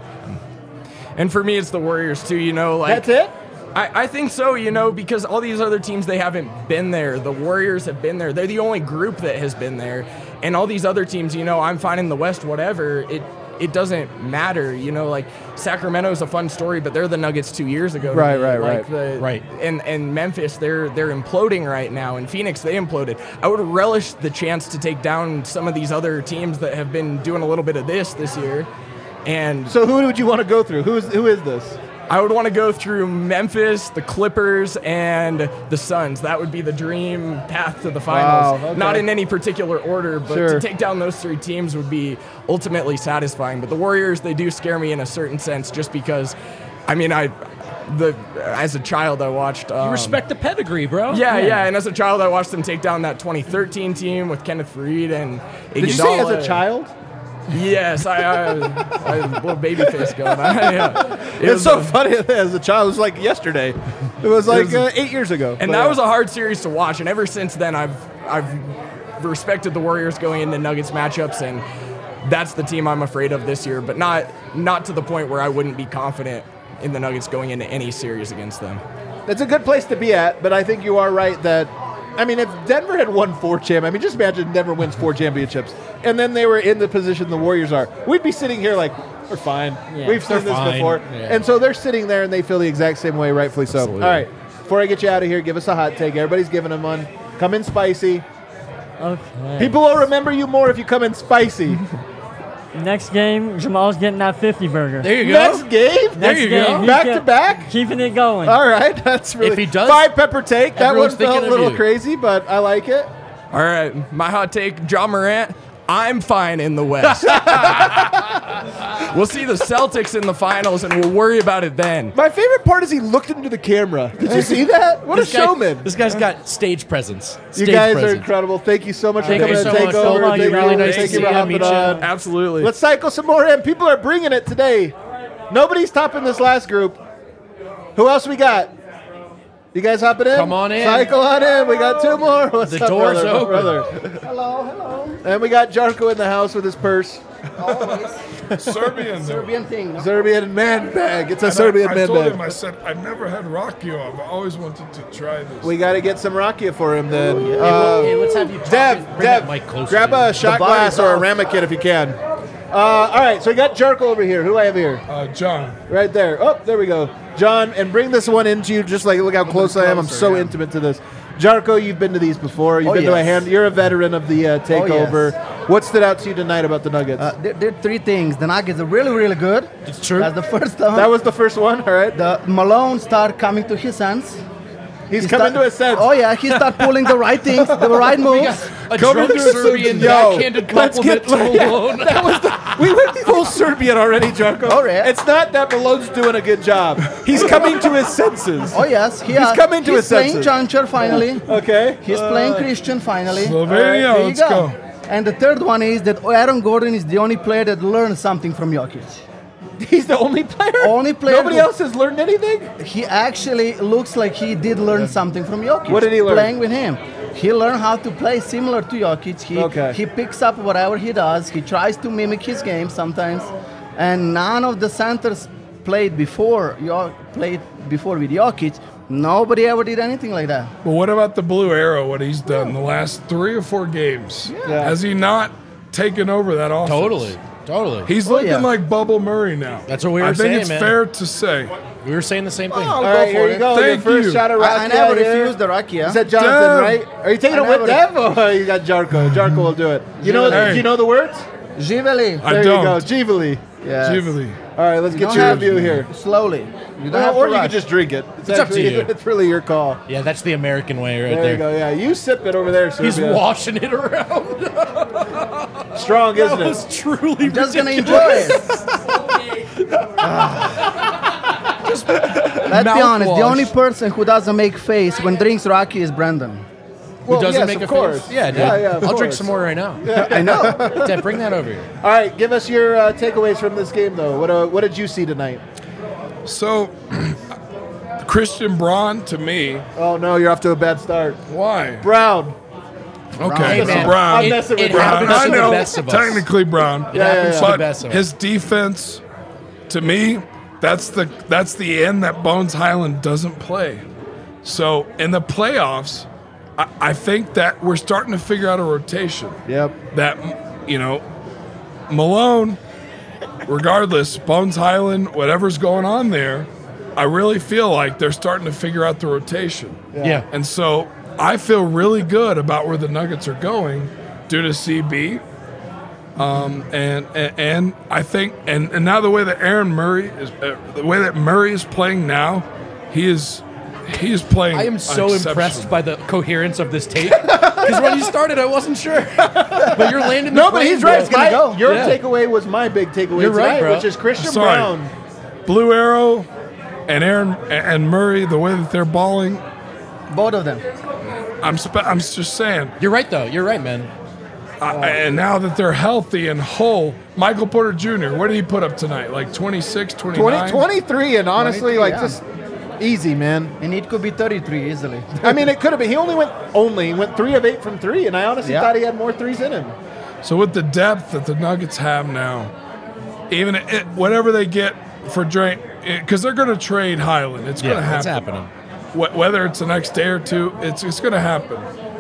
And for me, it's the Warriors too. You know, like That's it? I, I think so, you know, because all these other teams, they haven't been there. The Warriors have been there. They're the only group that has been there. And all these other teams, you know, I'm fine in the West, whatever. It it doesn't matter. You know, like Sacramento's a fun story, but they're the Nuggets two years ago. to Right, me. right, like right. The, Right. And and Memphis, they're they're imploding right now. And Phoenix, they imploded. I would relish the chance to take down some of these other teams that have been doing a little bit of this this year. And So who would you want to go through? Who is who is this? I would want to go through Memphis, the Clippers, and the Suns. That would be the dream path to the finals. Wow, okay. Not in any particular order, but Sure. to take down those three teams would be ultimately satisfying. But the Warriors, they do scare me in a certain sense, just because, I mean, I, the as a child I watched. Um, you respect the pedigree, bro. Yeah, yeah, and as a child I watched them take down that twenty thirteen team with Kenneth Faried and Iguodala. Did you say as a child? Yes, I, I, I had a little baby face going on. Yeah. It It's was, so uh, funny as a child. It was like yesterday. It was like was- uh, eight years ago. And But, that uh, was a hard series to watch. And ever since then, I've I've respected the Warriors going into Nuggets matchups, and that's the team I'm afraid of this year. But not not to the point where I wouldn't be confident in the Nuggets going into any series against them. It's a good place to be at, but I think you are right that, I mean, if Denver had won four champ, I mean, just imagine Denver wins four championships, and then they were in the position the Warriors are. We'd be sitting here like, we're fine. Yeah. We've seen They're this fine. before. Yeah. And so they're sitting there and they feel the exact same way, rightfully so. Absolutely. All right, before I get you out of here, give us a hot take. Everybody's giving them one. Come in spicy. Okay. People will remember you more if you come in spicy. Next game, Jamal's getting that fifty burger. There you go. Next game? Next you game, go. he's Back get- to back? Keeping it going. All right, that's really If he does, five pepper take. That one everyone's felt thinking a of little you. crazy, but I like it. All right, my hot take, Ja Morant. I'm fine in the West. We'll see the Celtics in the finals, and we'll worry about it then. My favorite part is he looked into the camera. Did you see that? What a This guy- showman! This guy's got stage presence. You Stage guys are presence. incredible. Thank you so much Thank for you coming so to much. take So over. much. Thank Really you. nice Thank to you see for you, hopping meet you. on. Absolutely. Let's cycle some more in. People are bringing it today. Nobody's topping this last group. Who else we got? You guys hopping in? Come on in. Cycle on in. We got two more. What's The up, door's brother? open. Brother. Hello, hello. And we got Jarko in the house with his purse. Serbian. Serbian thing. No? Serbian man bag. It's a And Serbian I, I man told bag. him, I said, I've never had Rockio. I've always wanted to try this. We got to get some Rakia for him then. Hey, Uh, well, hey, let's have you talk Dev, and bring that Dev, mic closer grab to you. a shot body's glass or a off. ramekin if you can. Uh, all right, so we got Jarko over here. Who do I have here? uh, John. Right there. Oh, there we go. John, and bring this one into you. Just like, look how close I am. I'm closer, so yeah. intimate to this. Jarko, you've been to these before. You've Oh, been to a yes. hand. You're a veteran of the uh, takeover. What stood out to you tonight about the Nuggets? Uh, there, there are three things. The Nuggets are really, really good. It's true. That's the first one. that was the first one. All right. the Malone started coming to his sense. He's He coming start- to his sense. Oh yeah, he start pulling the right things, the right moves. A Coming drunk to his Serbian senses. Yo, backhanded let's compliment get- to Malone. That was the, we went full Serbian already, Jarko. Oh, yeah. It's not that Malone's doing a good job. He's coming to his senses. Oh yes, he He's has- coming to he's his playing senses. Juncture finally. Okay. He's playing Christian finally. Slovenia, There you let's go. And the third one is that Aaron Gordon is the only player that learned something from Jokic. He's the only player? Only player. Nobody who- else has learned anything? He actually looks like he did learn something from Jokic. What did he learn? Playing with him. He learned how to play similar to Jokic. He, Okay. he picks up whatever he does. He tries to mimic his game sometimes. And none of the centers played before Jo- played before with Jokic. Nobody ever did anything like that. But what about the Blue Arrow, what he's done the last three or four games? Yeah. Has he not taken over that offense? Totally. Totally. He's Oh, looking yeah. like Bubble Murray now. That's what we were I think saying, it's man. fair to say. We were saying the same thing. All go right, for here you it. go. Thank Your first you. shot of I, Rakia I never here. refused the Rakia. Is that Jonathan, Dev. right? Are you taking I it with never- Dev? Oh, you got Jarko. Jarko will do it. You know, Hey. do you know the words? Giveli. I There don't. you go. Jivali. Yes. Jubilee. All right, let's You get don't your have- review here. Slowly. You don't Well, have or to you rush. could just drink it. It's up to actually- you. It's really your call. Yeah, that's the American way right There, there. you go. Yeah, you sip it over there, Serbia. He's washing it around. Strong, isn't That it? was truly Just gonna ridiculous. enjoy it. Let's be honest. The mouthwash. only person who doesn't make face when drinks Rocky is Brandon. Well, Who doesn't yes, make of a course. face? Yeah, dude. Yeah, yeah, of I'll drink course. some more right now. I know. Dad, bring that over here. All right, give us your uh, takeaways from this game, though. What uh, what did you see tonight? So, Christian Braun, to me, Oh no, you're off to a bad start. why? Brown. Okay, Hey, man. Brown. I'm messing with It Brown. happens I to the know, best of us. technically Brown. It happens to the But best of us. his defense, to me, that's the that's the end that Bones Highland doesn't play. So in the playoffs, I, I think that we're starting to figure out a rotation. Yep. That you know, Malone, regardless, Bones Highland, whatever's going on there, I really feel like they're starting to figure out the rotation. Yeah. And so I feel really good about where the Nuggets are going due to C B. Um, and, and and I think and, and now the way that Aaron Murray is uh, the way that Murray is playing now, he is he is playing. I am so exceptional. impressed by the coherence of this tape. Because when you started, I wasn't sure. But you're landing the No, but plane, he's bro. right. It's gonna My- go. Your Yeah. takeaway was my big takeaway You're right, tonight, bro. which is Christian Sorry. Brown. Blue Arrow and Aaron and Murray, the way that they're balling, Both of them. I'm spe- I'm just saying. You're right, though. You're right, man. I, and now that they're healthy and whole, Michael Porter Junior, what did he put up tonight? Like twenty-six, twenty-nine? twenty, twenty-three, and honestly, twenty-three, like yeah. just easy, man. And it could be thirty-three easily. I mean, it could have been. He only went only he went three of eight from three, and I honestly Yeah. thought he had more threes in him. So with the depth that the Nuggets have now, even it, whatever they get for Drake, because they're going to trade Highland, it's going to Yeah, it's happen. happening. Wh- Whether it's the next day or two, it's it's going to happen.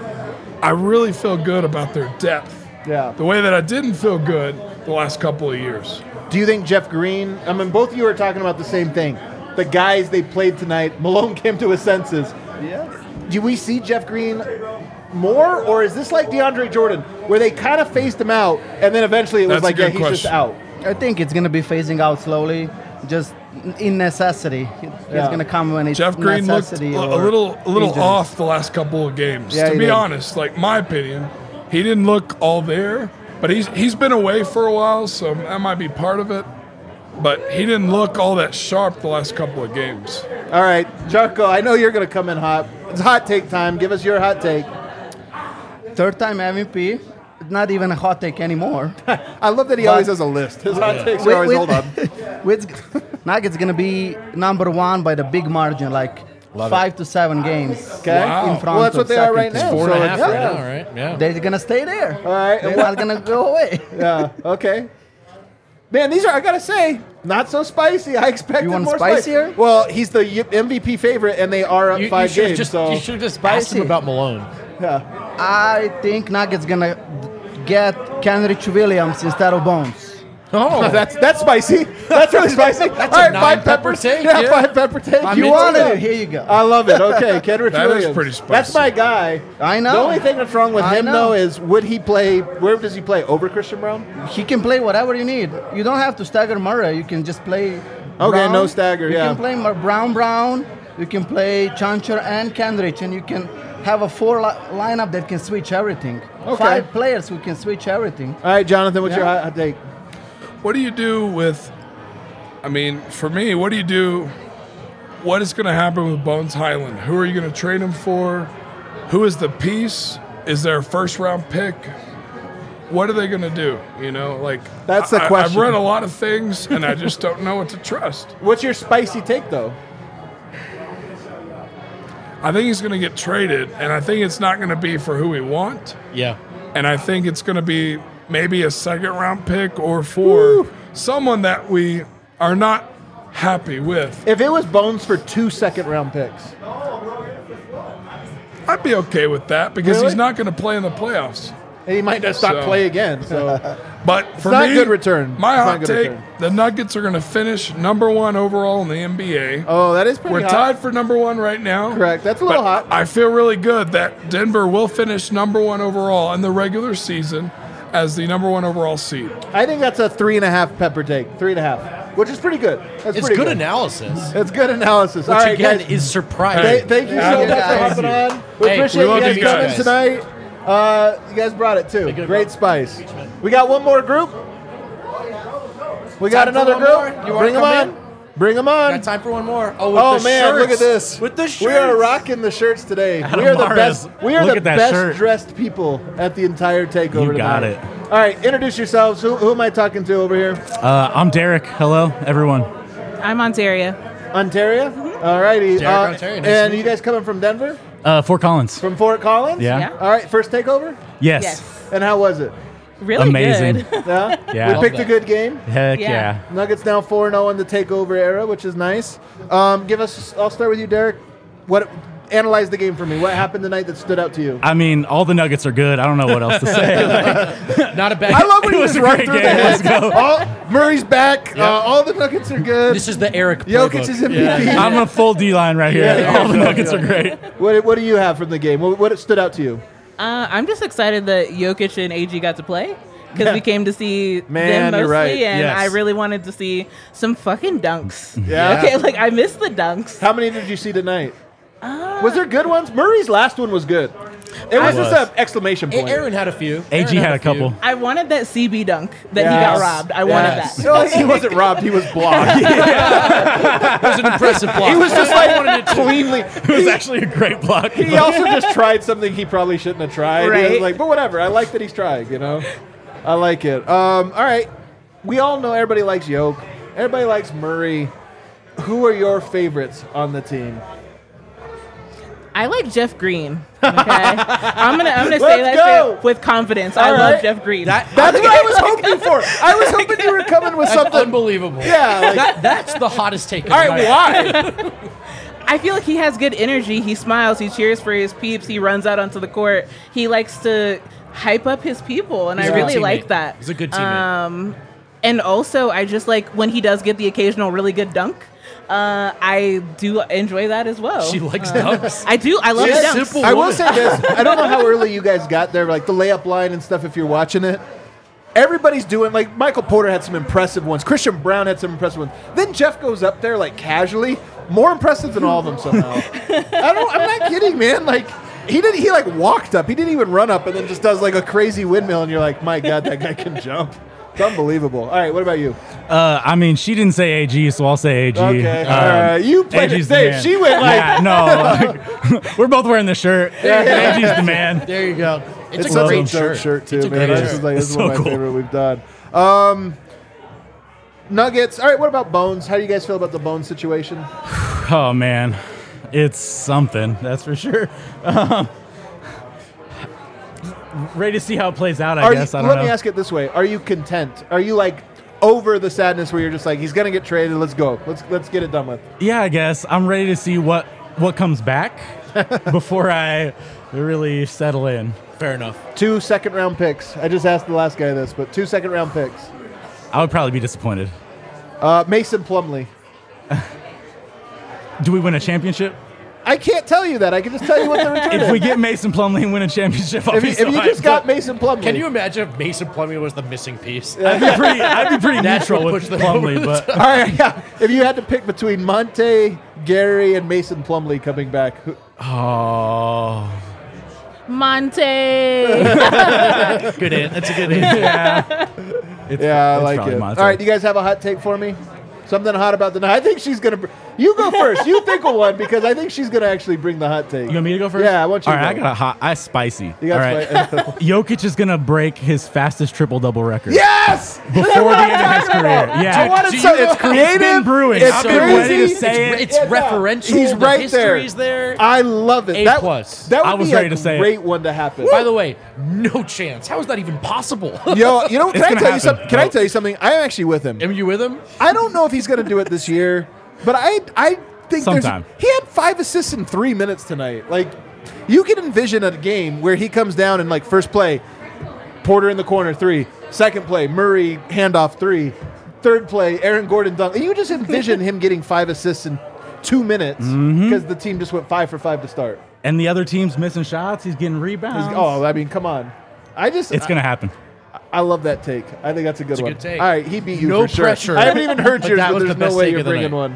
I really feel good about their depth. Yeah. The way that I didn't feel good the last couple of years. Do you think Jeff Green? I mean, both of you are talking about the same thing. The guys they played tonight. Malone came to his senses. Yeah. Do we see Jeff Green more, or is this like DeAndre Jordan, where they kind of phased him out, and then eventually it was That's a like, yeah, good he's just question. out. I think it's gonna be phasing out slowly, just in necessity. It's Yeah. gonna come when it's Jeff Green looked a, necessity. a or little a little injury. off the last couple of games. Yeah, to he be did. honest, like my opinion, he didn't look all there. But he's he's been away for a while, so that might be part of it. But he didn't look all that sharp the last couple of games. All right, Jarko, I know you're going to come in hot. It's hot take time. Give us your hot take. Third time M V P. Not even a hot take anymore. I love that he But- always has a list. His hot takes are With- always, with- hold on. with Nuggets gonna be number one by the big margin, like five to seven games. Okay. Wow. In front Well, that's of what they are second right team. now. Four So and a it's- half right yeah. now, right? Yeah. They're gonna stay there. All right. They're not gonna go away. Yeah, okay. Man, these are, I got to say, not so spicy. I expected You want more spice. spicier? Well, he's the y- M V P favorite, and they are up You, you five should have games. just, so you should have just asked him Spicy. about Malone. yeah. I think Nuggets gonna get Kenrich Williams instead of Bones. Oh, that's that's spicy. That's really spicy. That's All a right, nine five pepper peppers. take, Yeah, yeah. five pepper take. I'm you into want it. it? Here you go. I love it. Okay, Kenrich That is Williams. pretty spicy. That's my guy. I know. The only thing that's wrong with I him know. though is would he play? Where does he play? Over Christian Brown? He can play whatever you need. You don't have to stagger Murray. You can just play. Okay, Brown. no stagger, You yeah. can play Mar- Brown, Brown, You can play Chancher and Kendrick, and you can have a four li- lineup that can switch everything. Okay. Five players who can switch everything. All right, Jonathan, what's your Yeah. hot hot take? What do you do with, I mean, for me, what do you do? What is going to happen with Bones Highland? Who are you going to trade him for? Who is the piece? Is there a first round pick? What are they going to do? You know, like That's the I, question. I've read a lot of things, and I just don't know what to trust. What's your spicy take, though? I think he's going to get traded, and I think it's not going to be for who we want. Yeah. And I think it's going to be maybe a second round pick or for someone that we are not happy with. If it was Bones for two second round picks, I'd be okay with that because Really? he's not going to play in the playoffs. he might just not So- play again. So But for not me, good return. my It's not hot good take: return. the Nuggets are going to finish number one overall in the N B A. Oh, that is pretty We're hot. tied for number one right now. Correct. That's a little But hot. I feel really good that Denver will finish number one overall in the regular season as the number one overall seed. I think that's a three and a half pepper take. Three and a half, which is pretty good. That's It's pretty good analysis. It's good analysis. Which All right, again guys. is surprising. Th- thank you so Hey, much for guys. hopping on. We Hey, appreciate we love you guys you coming guys. tonight. Uh, you guys brought it too. good, Great bro. spice. We got one more group. We got Time for another one group. more? You wanna Bring them come on. in? Bring them on. Got time for one more. Oh, with Oh the man, shirts. look at this. With the shirts. We are rocking the shirts today. we are the Mahrez, best. We are look the at that best shirt. dressed people at the entire takeover. You got tonight. it. All right, introduce yourselves. Who, who am I talking to over here? Uh, I'm Derek. Hello, everyone. I'm Ontario. Ontario. All righty. Derek, Uh, Ontario. Nice to and meet you guys coming from Denver? Uh, Fort Collins. From Fort Collins? Yeah. Yeah. All right, first takeover. Yes. Yes. And how was it? Really Amazing. good. Yeah. Yeah. We picked a that. good game. Heck Yeah. yeah. Nuggets now four and zero in the takeover era, which is nice. Um, give us. I'll start with you, Derek. What? Analyze the game for me. What happened tonight that stood out to you? I mean, all the Nuggets are good. I don't know what else to say. Like, Not a bad. I love when It you was just a run great through game. the Let's head. go. All, Murray's back. Uh, all the Nuggets are good. This is the Eric. Jokic playbook. is M V P. Yeah. I'm a full D line right here. Yeah, yeah, all the yeah, Nuggets yeah. are great. What, what do you have from the game? What, what stood out to you? Uh, I'm just excited that Jokic and A G got to play because Yeah. we came to see Man, them you're mostly, right. and Yes. I really wanted to see some fucking dunks. Yeah. Okay, like I missed the dunks. How many did you see tonight? Uh, Was there good ones? Murray's last one was good. It was It just was. an exclamation point. Aaron had a few. A G Aaron had a few. couple. I wanted that C B dunk that he Yes. got robbed. I wanted Yes. that. No, he wasn't robbed. He was blocked. It was an impressive block. He was just like cleanly. It was actually a great block. He also just tried something he probably shouldn't have tried. He was Right. like, but whatever. I like that he's trying. You know, I like it. Um, all right. We all know everybody likes Yoke. Everybody likes Murray. Who are your favorites on the team? I like Jeff Green. Okay, I'm gonna I'm gonna say Let's that go. straight with confidence. I All love right. Jeff Green. That, That's what I was hoping for. I was hoping you were coming with that's something. unbelievable. Yeah. Like, That, that's the hottest take. Of all the right. night. Why? I feel like he has good energy. He smiles. He cheers for his peeps. He runs out onto the court. He likes to hype up his people, and He's I a good really teammate. like that. He's a good teammate. Um, and also, I just like when he does get the occasional really good dunk. Uh, I do enjoy that as well. She likes Uh, dunks. I do. I love She's the a dunks. simple I will woman. say this. I don't know how early you guys got there, like the layup line and stuff, if you're watching it. Everybody's doing, like, Michael Porter had some impressive ones. Christian Brown had some impressive ones. Then Jeff goes up there, like, casually. More impressive than all of them somehow. I don't, I'm not kidding, man. Like, he did, he, like, walked up. He didn't even run up and then just does, like, a crazy windmill. And you're like, my God, that guy can jump. It's unbelievable. All right, what about you? Uh, I mean, she didn't say A G, so I'll say A G. Okay, Um, all right. You played it A G's the safe. man. She went like- Yeah, no. like, we're both wearing the shirt. A G's the man. There you go. It's, It's a such great a shirt. dope shirt, too, It's a man. great This shirt. is, like, this It's is one so of my cool. favorite we've done. Um, Nuggets. All right, what about Bones? How do you guys feel about the Bones situation? Oh, man. It's something, that's for sure. Um, ready to see how it plays out, I Are guess. you, I don't let know. me ask it this way: are you content? Are you like over the sadness where you're just like, he's gonna get traded? Let's go. Let's let's get it done with. Yeah, I guess. I'm ready to see what, what comes back before I really settle in. Fair enough. Two second round picks. I just asked the last guy this, but two second round picks. I would probably be disappointed. Uh, Mason Plumlee. Do we win a championship? I can't tell you that. I can just tell you what the return is. If we get Mason Plumlee and win a championship, I'll if be you, so if you hyped. just got Mason Plumlee, Can you imagine if Mason Plumlee was the missing piece? I'd be pretty, I'd be pretty Natural neutral with push the Plumlee, moment. but All right, yeah. If you had to pick between Monte, Gary and Mason Plumlee coming back. Who- Oh. Monte. Good answer. That's a good answer. Yeah. It's, yeah, I it's like probably it. Monte. All right, do you guys have a hot take for me? Something hot about the night. I think she's gonna. Br- you go first. You think of one because I think she's gonna actually bring the hot take. You want me to go first? Yeah, I want you All to right, go. I got a hot. I spicy. You got All right. spi- Jokic is gonna break his fastest triple double record. Yes! Before the end of his career. Yeah. I wanted Do some- you know- it's creative. It's been brewing. It's I've been ready to crazy. say it. It's referential. He's the right there. history's there. I love it. A that, plus. That would I was be ready a to say it. great one to happen. By the way, no chance. How is that even possible? Yo, you know, can It's I gonna tell you happen. something? Can I Nope. tell you something? I'm actually with him. Am you with him? I don't know if he's going to do it this year, but I I think Sometime. there's. He had five assists in three minutes tonight. Like, you can envision a game where he comes down and like first play, Porter in the corner three, second play Murray handoff three, third play Aaron Gordon dunk. You just envision him getting five assists in two minutes because the team just went five for five to start. And the other team's missing shots. He's getting He's- rebounds. oh, I mean, come on. I just It's going to happen. I love that take. I think that's a good It's a one. good take. All right, he beat you No for sure. pressure. I haven't even heard But yours, that but was there's the no best way take you're of the bringing night. one.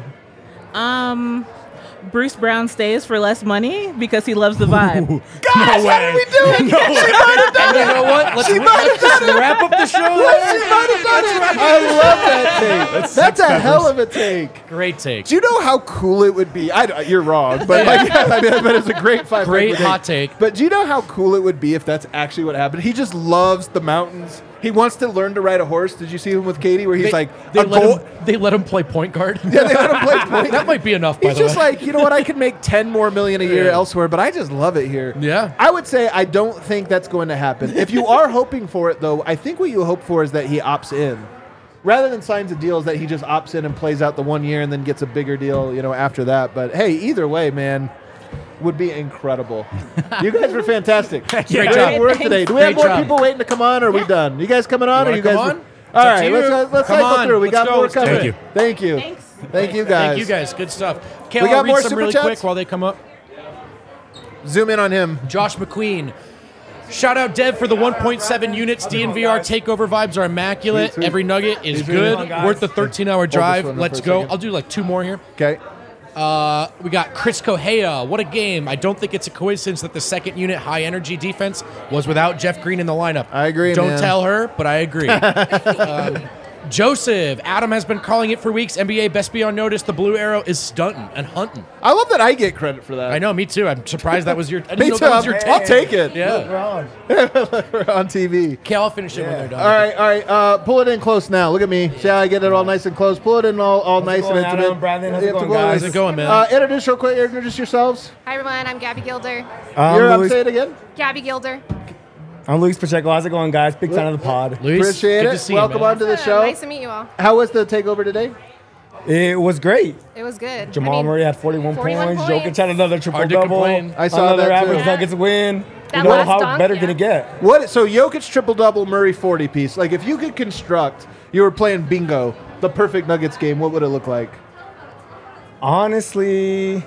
Um, Bruce Brown stays for less money because he loves the vibe. Guys, what are we doing? She might have done And you it. know what? Let's, She might have let's just done it. wrap up the show. She might have done it. I love that take. That's, a hell of a take. Great take. Do you know how cool it would be? I, you're wrong, but like, I mean, but it's a great five. Great pepper hot take. But do you know how cool it would be if that's actually what happened? He just loves the mountains. He wants to learn to ride a horse. Did you see him with Katie, where he's They, like, they a let goal- him. They let him play point guard. Yeah, they let him play point. That might be enough. By He's the just way. like, you know what? I could make ten more million a year Yeah. elsewhere, but I just love it here. Yeah. I would say I don't think that's going to happen. If you are hoping for it, though, I think what you hope for is that he opts in, rather than signs a deal, is that he just opts in and plays out the one year and then gets a bigger deal, you know, after that. But hey, either way, man, would be incredible. You guys were fantastic. Great Great job. work today. Do we have Great more job. people waiting to come on, or are we done? You guys coming on, You or you wanna guys? come on? All It's up right, to let's you. uh, let's Come cycle on. through. We Let's got go. more Let's do coming. it. Thank you. Thanks. Thank you guys. Thank you guys. Good stuff. Kale, We got I'll read more some super really chats? quick while they come up. Zoom in on him. Josh McQueen. Shout out Dev for the one point seven units. D N V R takeover vibes are immaculate. Sweet, sweet. Every nugget is Sweet, good. sweet. Worth the thirteen hour drive. one up Let's for a go. second. I'll do like two more here. Okay. Uh, we got Chris Kohea. What a game. I don't think it's a coincidence that the second unit high energy defense was without Jeff Green in the lineup. I agree, Don't man. tell her, but I agree. um, Joseph. Adam has been calling it for weeks. N B A best be on notice. The blue arrow is stunting and hunting. I love that I get credit for that. I know, me too. I'm surprised that was your. I didn't Me know too. that was I'm- your I'll take. take it. Yeah. We're on T V. Okay, I'll finish it when they're done. All right, all right. Uh, pull it in close now. Look at me. See how I get it all nice and close. Pull it in all, all nice going, and intimate. Adam? Brandon, how's You it have to going, go- guys? How's it going, man? Uh, introduce real quick. Introduce yourselves. Hi everyone, I'm Gabby Gilder. Um, You're up. Luis, Say it again. Gabby Gilder. I'm Luis Pacheco. How's it going, guys? Big fan of the pod. Luis, Appreciate good it. to see you, Welcome man. on to the Uh, show. Nice to meet you all. How was the takeover today? It was great. It was good. Jamal I mean, Murray had forty-one, forty-one points. points. Jokic had another triple Hard to double. complain. I saw another that, too. average Yeah. Nuggets win. That you know last how dunk, better yeah. can it get? What? So Jokic triple double, Murray forty piece. Like if you could construct, you were playing bingo, the perfect Nuggets game. What would it look like? Honestly,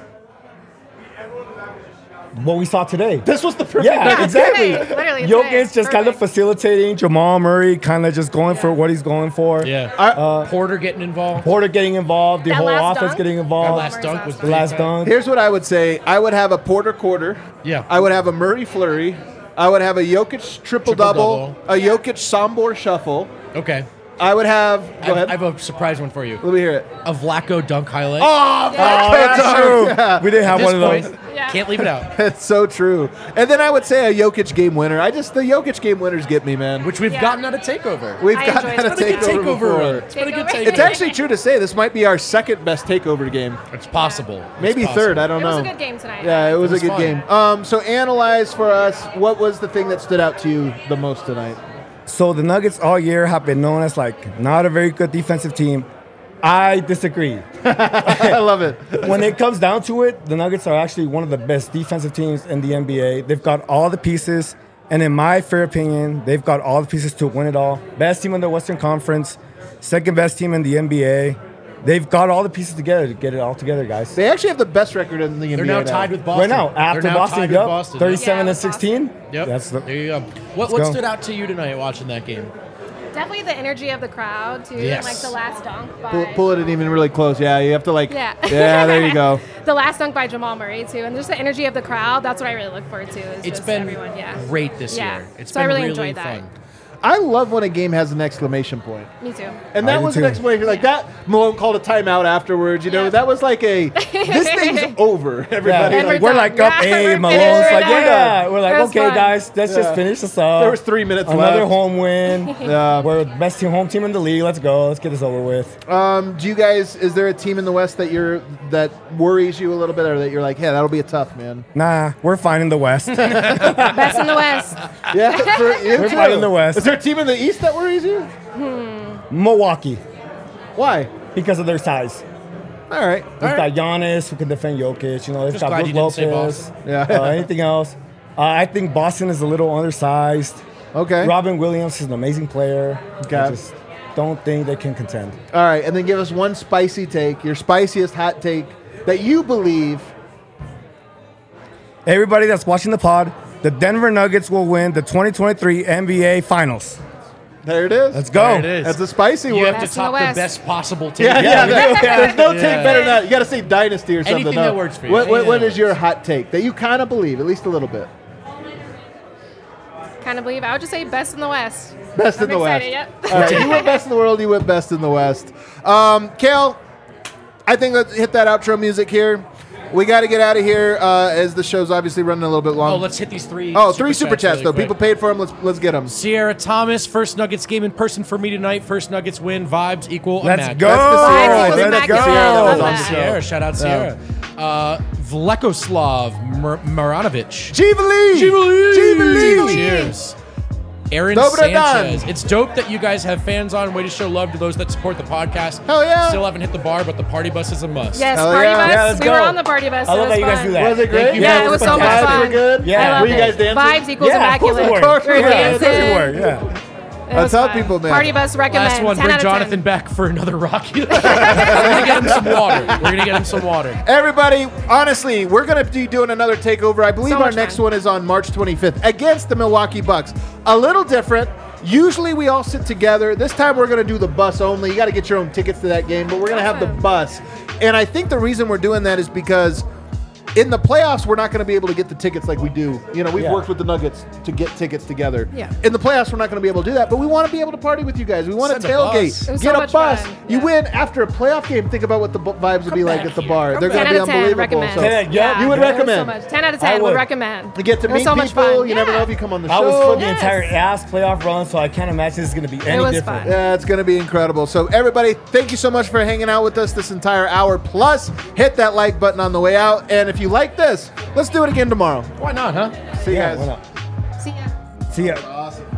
what we saw today. This was the perfect. Yeah, Nuggets exactly. Today, literally Jokic today. just kind of Perfect. facilitating. Jamal Murray kind of just going for what he's going for. Yeah. Uh, Porter getting involved. Porter getting involved. The That whole last offense dunk? getting That involved. last dunk was the last big. dunk. Here's what I would say. I would have a Porter quarter. Yeah. I would have a Murray flurry. I would have a Jokic triple, double, a Jokic Sombor shuffle. Okay. I would have. I Go have, ahead. I have a surprise one for you. Let me hear it. A Vlaco dunk highlight. Oh, Oh, that's true. Yeah. We didn't have At one of this those. point, Yeah. Can't leave it out. It's so true. And then I would say a Jokic game winner. I just the Jokic game winners get me, man. Which we've Yeah. gotten out of takeover. We've I gotten enjoyed out it. of It's been a good takeover takeover before. run. It's been a good Takeover. takeover. It's actually true to say this might be our second best takeover game. It's possible. It's Maybe possible. third. I don't It know. was a good game tonight. Yeah, it was, It was a good fun. game. Um, so analyze for us. What was the thing that stood out to you the most tonight? So the Nuggets all year have been known as like not a very good defensive team. I disagree. I love it. When it comes down to it, the Nuggets are actually one of the best defensive teams in the N B A. They've got all the pieces, and in my fair opinion, they've got all the pieces to win it all. Best team in the Western Conference, second best team in the N B A. They've got all the pieces together to get it all together, guys. They actually have the best record in the N B A. They're now tied with Boston. Right now, after They're now Boston, tied with yep, Boston. thirty-seven Yeah, and with sixteen. Yep. That's the, there you go. What, Let's what go. stood out to you tonight watching that game? Definitely the energy of the crowd too, Yes. and like the last dunk by Pull, pull it in even really close. Yeah, you have to like. Yeah. Yeah, there you go. the last dunk by Jamal Murray too, and just the energy of the crowd. That's what I really look forward to. Is It's just been everyone, yeah. great this Yeah. year. It's so I been really really enjoyed that. fun. I love when a game has an exclamation point. Me too. And that I do was an too. exclamation like that. Malone called a timeout afterwards. You know, that was like a this thing's over. Everybody, Yeah, like, we're like up Yeah, eight. we're Malone's finished. like, We're yeah. done. We're like, It was okay, fun. guys, let's Yeah. just finish this up. There was three minutes Another left. home win. Yeah. We're the best team, home team in the league. Let's go. Let's get this over with. Um, do you guys? Is there a team in the West that you're that worries you a little bit, or that you're like, yeah, that'll be a tough man? Nah, we're fine in the West. Best in the West. Yeah, for you We're too. fine in the West. Is there a team in the East that worries you? Milwaukee, Why? because of their size. All right. They've All right. got Giannis who can defend Jokic. You know, they've Just got glad Brook you didn't say Lopez. Boston. Yeah. Uh, anything else? Uh, I think Boston is a little undersized. Okay. Robin Williams is an amazing player. Okay. I just don't think they can contend. All right, and then give us one spicy take, your spiciest hot take that you believe. Everybody that's watching the pod, the Denver Nuggets will win the twenty twenty-three N B A Finals. There it is. Let's go. There it is. That's a spicy You one. have to Best in the top the West. best possible take. Yeah, yeah. there- there's no Yeah. take better than that. You got to say dynasty or something. Anything no. that works for you. What, what, Anything what that is your hot take that you kind of believe, at least a little bit? Kind of believe. I would just say best in the West. Best in I'm the West. excited, Yep. All right, you went best in the world. You went best in the West. Um, Kale, I think let's hit that outro music here. We got to get out of here uh, as the show's obviously running a little bit long. Oh, let's hit these three. Oh, three super chats really though. quick. People paid for them. Let's let's get them. Sierra Thomas, first Nuggets game in person for me tonight. First Nuggets win. Vibes equal. Let's immaculate. go. Vibes equals Let's immaculate. go. Sierra, that was Love on that. the show. Sierra, shout out Sierra. Uh, Vlekoslav Mar- Maranovic. Chivalee. Chivalee. Cheers. Aaron Dobro Sanchez. Dan. It's dope that you guys have fans on. Way to show love to those that support the podcast. Hell yeah. Still haven't hit the bar, but the party bus is a must. Yes, Hell party yeah. bus. Yeah, let's we go. were on the party bus. I It love was that you guys fun. do that. Was it great? Thank you. Yeah, it was so much Vibes fun. were good. Yeah. I Were loved you it. guys dancing? Vibes equals Yeah, of course immaculate. we were. Of course we We're were. Yeah, of course we dancing. were. Yeah. It That's was how fun. people, man. Party bus recommend. Last one, ten bring out of Jonathan ten. back for another Rocky. We're gonna get him some water. We're gonna get him some water. Everybody, honestly, we're going to be doing another takeover. I believe So our much next fun. one is on March twenty-fifth against the Milwaukee Bucks. A little different. Usually we all sit together. This time we're going to do the bus only. You got to get your own tickets to that game, but we're going to have the Awesome. bus. And I think the reason we're doing that is because in the playoffs, we're not going to be able to get the tickets like we do. You know, we've Yeah. worked with the Nuggets to get tickets together. Yeah. In the playoffs, we're not going to be able to do that, but we want to be able to party with you guys. We want to Send a bus. tailgate, It was get so a much bus. fun. You Yeah. win after a playoff game. Think about what the bu- vibes would be like back at the here. bar. Come They're going ten to be out of ten, unbelievable. recommend. So- Yeah, Yeah. You would It was so recommend. much. ten out of I ten would would. recommend. You get to It was meet so much people. fun. You never Yeah. know if you come on the I show. was for the Yes. entire ass playoff run, so I can't imagine it's going to be any was different. fun. Yeah, it's going to be incredible. So, everybody, thank you so much for hanging out with us this entire hour. Plus, hit that like button on the way out. And if you like this, let's do it again tomorrow. Why not, huh? See you Yeah, guys. why not? See ya. See ya. Awesome.